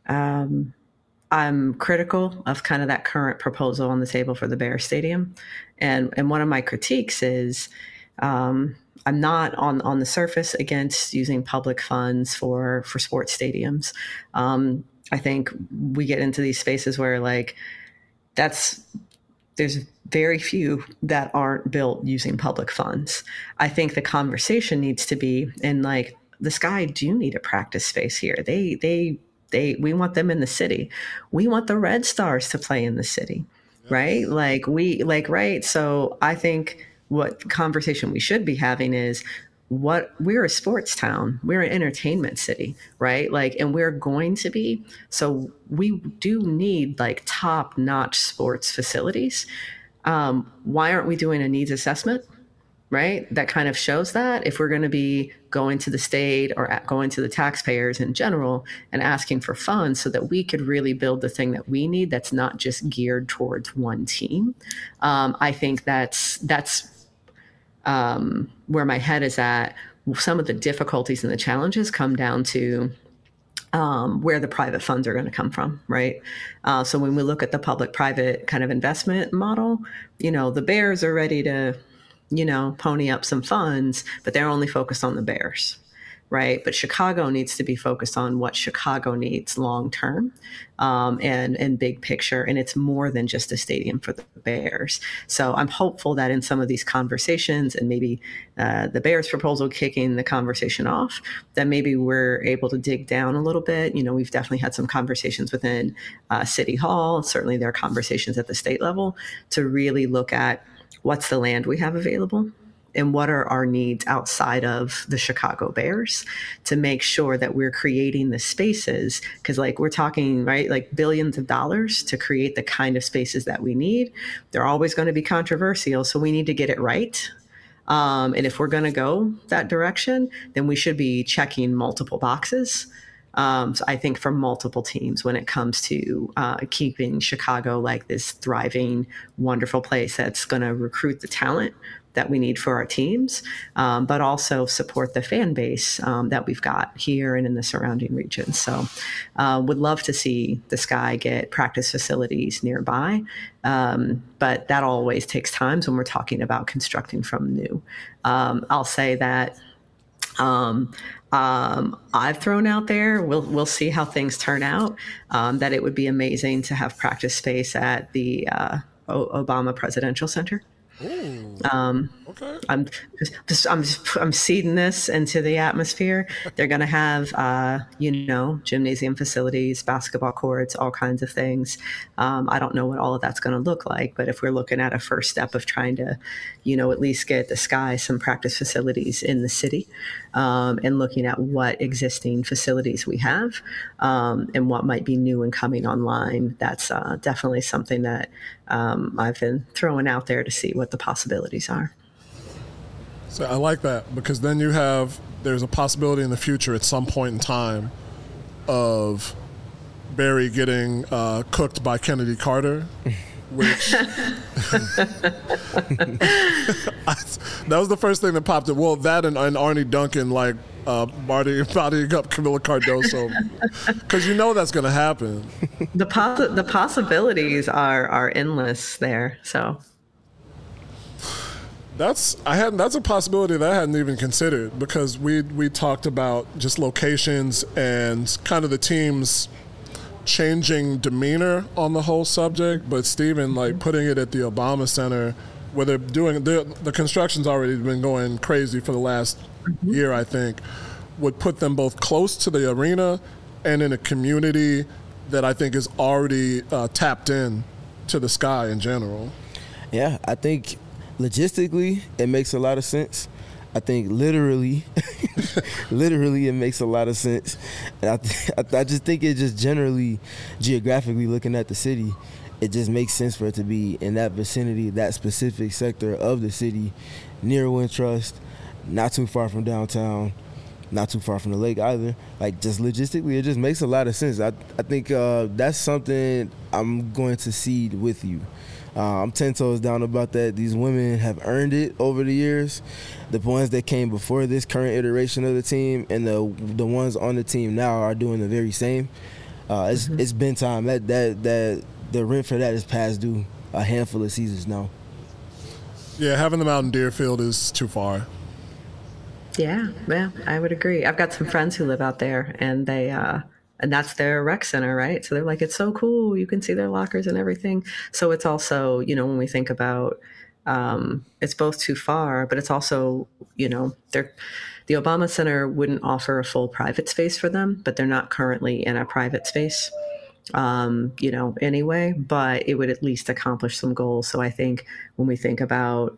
I'm critical of kind of that current proposal on the table for the Bears Stadium, and one of my critiques is I'm not on the surface against using public funds for sports stadiums. I think we get into these spaces where like there's very few that aren't built using public funds. I think the conversation needs to be, and like the Sky do need a practice space here. We want them in the city. We want the Red Stars to play in the city, right? Right. So I think what conversation we should be having is we're a sports town. We're an entertainment city, right? Like, and we're going to be, so we do need like top-notch sports facilities. Why aren't we doing a needs assessment, right? That kind of shows that if we're going to be going to the state or going to the taxpayers in general and asking for funds so that we could really build the thing that we need that's not just geared towards one team. I think that's where my head is at. Some of the difficulties and the challenges come down to where the private funds are going to come from, right? So when we look at the public-private kind of investment model, you know, the Bears are ready to, you know, pony up some funds, but they're only focused on the Bears, right? But Chicago needs to be focused on what Chicago needs long-term and big picture. And it's more than just a stadium for the Bears. So I'm hopeful that in some of these conversations, and maybe the Bears proposal kicking the conversation off, that maybe we're able to dig down a little bit. You know, we've definitely had some conversations within City Hall. Certainly there are conversations at the state level to really look at what's the land we have available and what are our needs outside of the Chicago Bears to make sure that we're creating the spaces. Because like we're talking, right, like billions of dollars to create the kind of spaces that we need. They're always going to be controversial, so we need to get it right. And if we're going to go that direction, then we should be checking multiple boxes. So I think for multiple teams when it comes to keeping Chicago like this thriving, wonderful place that's going to recruit the talent that we need for our teams, but also support the fan base that we've got here and in the surrounding regions. So would love to see the Sky get practice facilities nearby, but that always takes time when we're talking about constructing from new. I'll say that I've thrown out there, we'll see how things turn out, that it would be amazing to have practice space at the Obama Presidential Center. Okay. I'm seeding this into the atmosphere. They're going to have, gymnasium facilities, basketball courts, all kinds of things. I don't know what all of that's going to look like, but if we're looking at a first step of trying to, at least get the Sky some practice facilities in the city, and looking at what existing facilities we have, and what might be new and coming online, that's definitely something that I've been throwing out there to see what the possibilities are. So I like that, because then there's a possibility in the future at some point in time of Barry getting cooked by Kennedy Carter, which that was the first thing that popped up. Well, that and Arnie Duncan, like bodying up Camila Cardoso, because you know that's going to happen. The possibilities are endless there. So that's a possibility that I hadn't even considered, because we talked about just locations and kind of the team's changing demeanor on the whole subject. But Stephen, like putting it at the Obama Center, where they're doing the construction's already been going crazy for the last year, I think, would put them both close to the arena and in a community that I think is already tapped in to the Sky in general. Yeah, I think logistically it makes a lot of sense. I think literally it makes a lot of sense. And I just think it just generally, geographically looking at the city, it just makes sense for it to be in that vicinity, that specific sector of the city, near Wintrust, not too far from downtown, not too far from the lake either. Like, just logistically, it just makes a lot of sense. I think that's something I'm going to cede with you. I'm 10 toes down about that. These women have earned it over the years. The ones that came before this current iteration of the team and the ones on the team now are doing the very same. It's been time. That the rent for that is past due a handful of seasons now. Yeah, having them out in Deerfield is too far. Yeah, I would agree. I've got some friends who live out there, and they and that's their rec center, right? So they're like, it's so cool. You can see their lockers and everything. So it's also, when we think about, it's both too far, but it's also, the Obama Center wouldn't offer a full private space for them, but they're not currently in a private space, anyway, but it would at least accomplish some goals. So I think when we think about,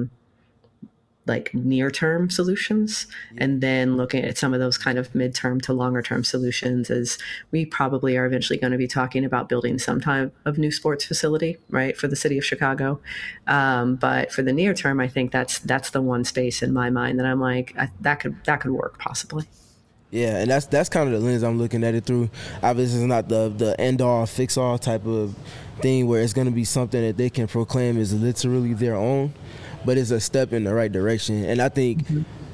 like near-term solutions, and then looking at some of those kind of midterm to longer-term solutions, is we probably are eventually going to be talking about building some type of new sports facility, right, for the city of Chicago. But for the near term, I think that's the one space in my mind that I'm like, that could work possibly. Yeah, and that's kind of the lens I'm looking at it through. Obviously, it's not the end-all, fix-all type of thing where it's going to be something that they can proclaim is literally their own, but it's a step in the right direction. And I think,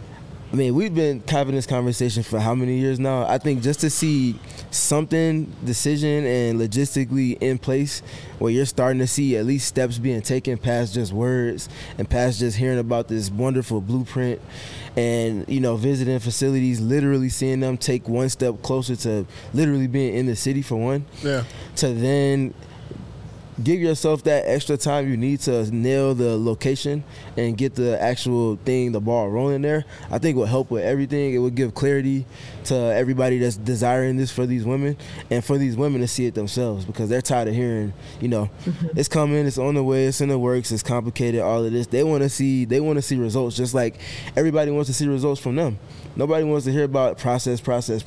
we've been having this conversation for how many years now? I think just to see something, decision and logistically in place where you're starting to see at least steps being taken past just words and past just hearing about this wonderful blueprint and, visiting facilities, literally seeing them take one step closer to literally being in the city for one. Yeah. To then give yourself that extra time you need to nail the location and get the actual thing, the ball rolling there. I think it will help with everything. It would give clarity to everybody that's desiring this for these women, and for these women to see it themselves, because they're tired of hearing, it's coming, it's on the way, it's in the works, it's complicated, all of this. They want to see results, just like everybody wants to see results from them. Nobody wants to hear about process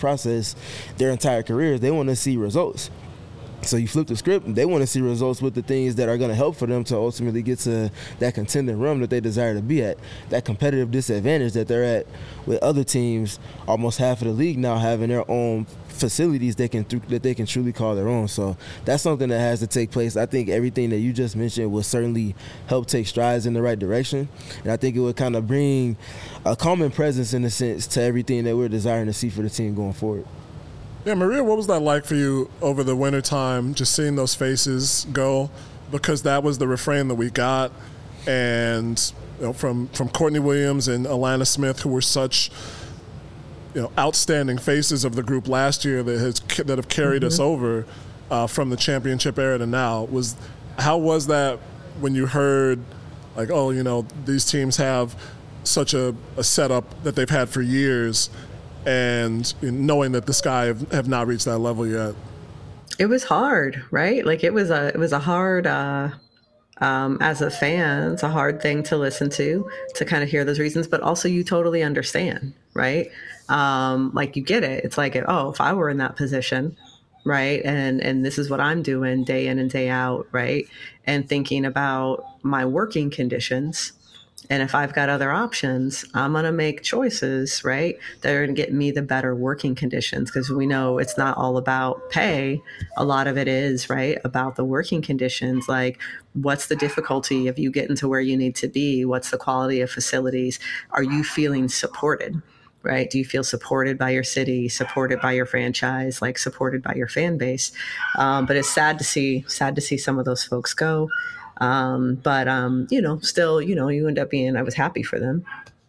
their entire careers. They want to see results. So you flip the script, they want to see results with the things that are going to help for them to ultimately get to that contending realm that they desire to be at, that competitive disadvantage that they're at with other teams, almost half of the league now having their own facilities that they can truly call their own. So that's something that has to take place. I think everything that you just mentioned will certainly help take strides in the right direction, and I think it would kind of bring a common presence, in a sense, to everything that we're desiring to see for the team going forward. Yeah, Maria, what was that like for you over the wintertime, just seeing those faces go? Because that was the refrain that we got. And from Courtney Williams and Alana Smith, who were such outstanding faces of the group last year that have carried us over from the championship era to now. How was that when you heard, like, these teams have such a setup that they've had for years, and knowing that the Sky have not reached that level yet? It was hard, right? Like it was a hard, as a fan, it's a hard thing to listen to kind of hear those reasons, but also you totally understand, right? Like you get it. It's like, if I were in that position, right? And this is what I'm doing day in and day out, right? And thinking about my working conditions. And if I've got other options, I'm going to make choices, right, that are going to get me the better working conditions, because we know it's not all about pay. A lot of it is, right, about the working conditions. Like, what's the difficulty of you getting to where you need to be? What's the quality of facilities? Are you feeling supported? right? Do you feel supported by your city, supported by your franchise, like supported by your fan base? But it's sad to see some of those folks go. Still, you end up being, I was happy for them.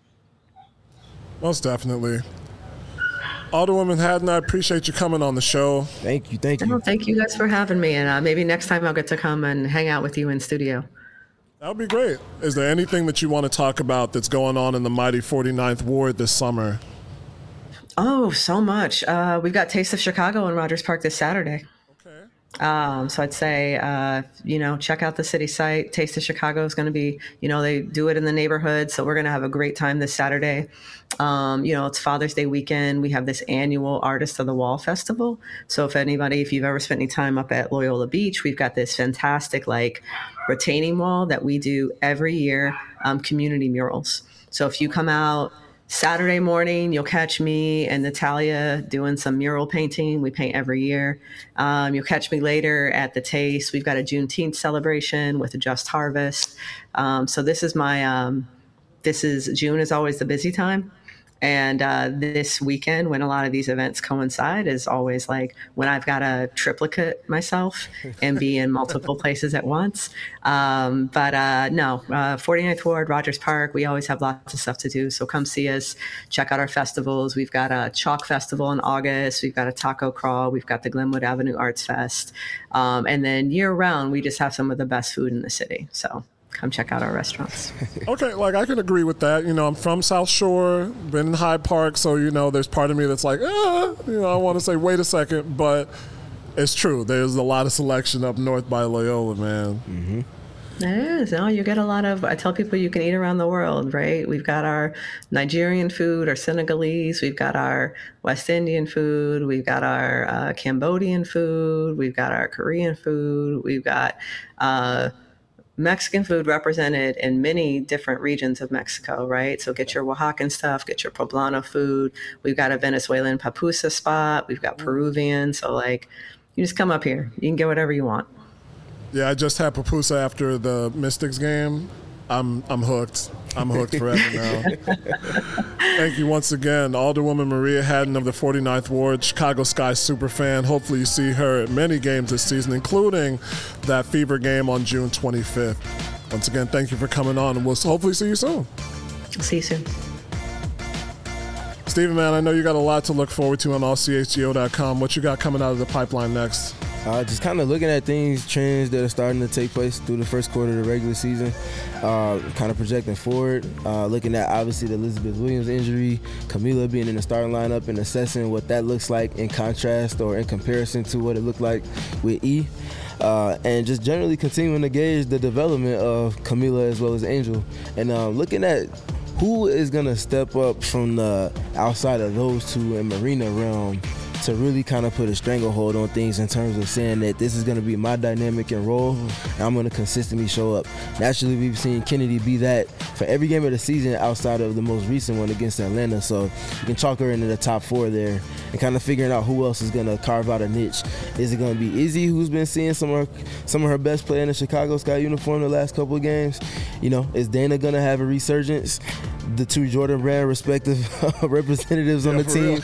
Most definitely. Alderwoman Hadden, I appreciate you coming on the show. Thank you. Well, thank you guys for having me. And maybe next time I'll get to come and hang out with you in studio. That would be great. Is there anything that you want to talk about that's going on in the mighty 49th Ward this summer? Oh, so much. We've got Taste of Chicago in Rogers Park this Saturday. So I'd say, check out the city site. Taste of Chicago is going to be, they do it in the neighborhood. So we're going to have a great time this Saturday. It's Father's Day weekend. We have this annual Artist of the Wall Festival. So if you've ever spent any time up at Loyola Beach, we've got this fantastic, retaining wall that we do every year, community murals. So if you come out Saturday morning, you'll catch me and Natalia doing some mural painting. We paint every year. You'll catch me later at the Taste. We've got a Juneteenth celebration with a Just Harvest. So this is June is always the busy time. And this weekend, when a lot of these events coincide, is always when I've got to triplicate myself and be in multiple places at once. 49th Ward, Rogers Park, we always have lots of stuff to do. So come see us, check out our festivals. We've got a Chalk Festival in August. We've got a Taco Crawl. We've got the Glenwood Avenue Arts Fest. And then year round, we just have some of the best food in the city. So come check out our restaurants. Okay, I can agree with that. I'm from South Shore, been in Hyde Park, so, there's part of me that's I want to say, wait a second, but it's true. There's a lot of selection up north by Loyola, man. Mm-hmm. There is. You get a lot of, I tell people you can eat around the world, right? We've got our Nigerian food, our Senegalese, we've got our West Indian food, we've got our Cambodian food, we've got our Korean food, we've got Mexican food represented in many different regions of Mexico, right? So get your Oaxacan stuff, get your poblano food. We've got a Venezuelan papusa spot. We've got Peruvian. So you just come up here. You can get whatever you want. Yeah, I just had pupusa after the Mystics game. I'm hooked. I'm hooked forever now. Thank you once again, Alderwoman Maria Hadden of the 49th Ward, Chicago Sky superfan. Hopefully you see her at many games this season, including that Fever game on June 25th. Once again, thank you for coming on, and we'll hopefully see you soon. See you soon. Steven, man, I know you got a lot to look forward to on allchgo.com. What you got coming out of the pipeline next? Just kind of looking at trends that are starting to take place through the first quarter of the regular season, kind of projecting forward, looking at obviously the Elizabeth Williams injury, Camila being in the starting lineup and assessing what that looks like in contrast or in comparison to what it looked like with E. And just generally continuing to gauge the development of Camila as well as Angel. And looking at who is going to step up from the outside of those two in Marina realm to really kind of put a stranglehold on things in terms of saying that this is going to be my dynamic and role, and I'm going to consistently show up. Naturally, we've seen Kennedy be that for every game of the season outside of the most recent one against Atlanta, so you can chalk her into the top four there and kind of figuring out who else is going to carve out a niche. Is it going to be Izzy, who's been seeing some of her best play in the Chicago Sky uniform the last couple of games? Is Dana going to have a resurgence? The two Jordan Brand respective representatives on the team,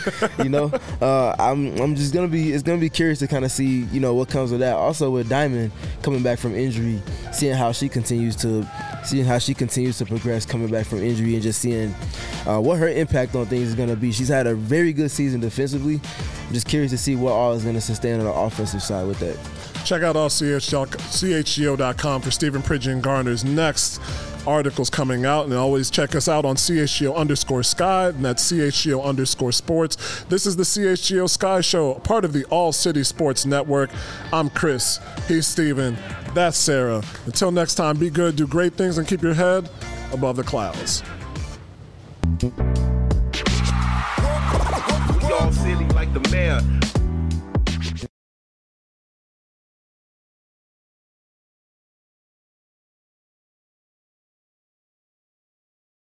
I'm just it's gonna be curious to kind of see what comes with that. Also with Diamond coming back from injury, seeing how she continues to progress coming back from injury, and just seeing what her impact on things is gonna be. She's had a very good season defensively. I'm just curious to see what all is gonna sustain on the offensive side with that. Check out chgo.com for Stephen Pridgeon Garner's next articles coming out, and always check us out on CHGO_Sky, and that's CHGO_Sports. This is the CHGO Sky Show, part of the All City Sports Network. I'm Chris. He's Steven. That's Sarah. Until next time, be good, do great things, and keep your head above the clouds. We all silly like the mayor.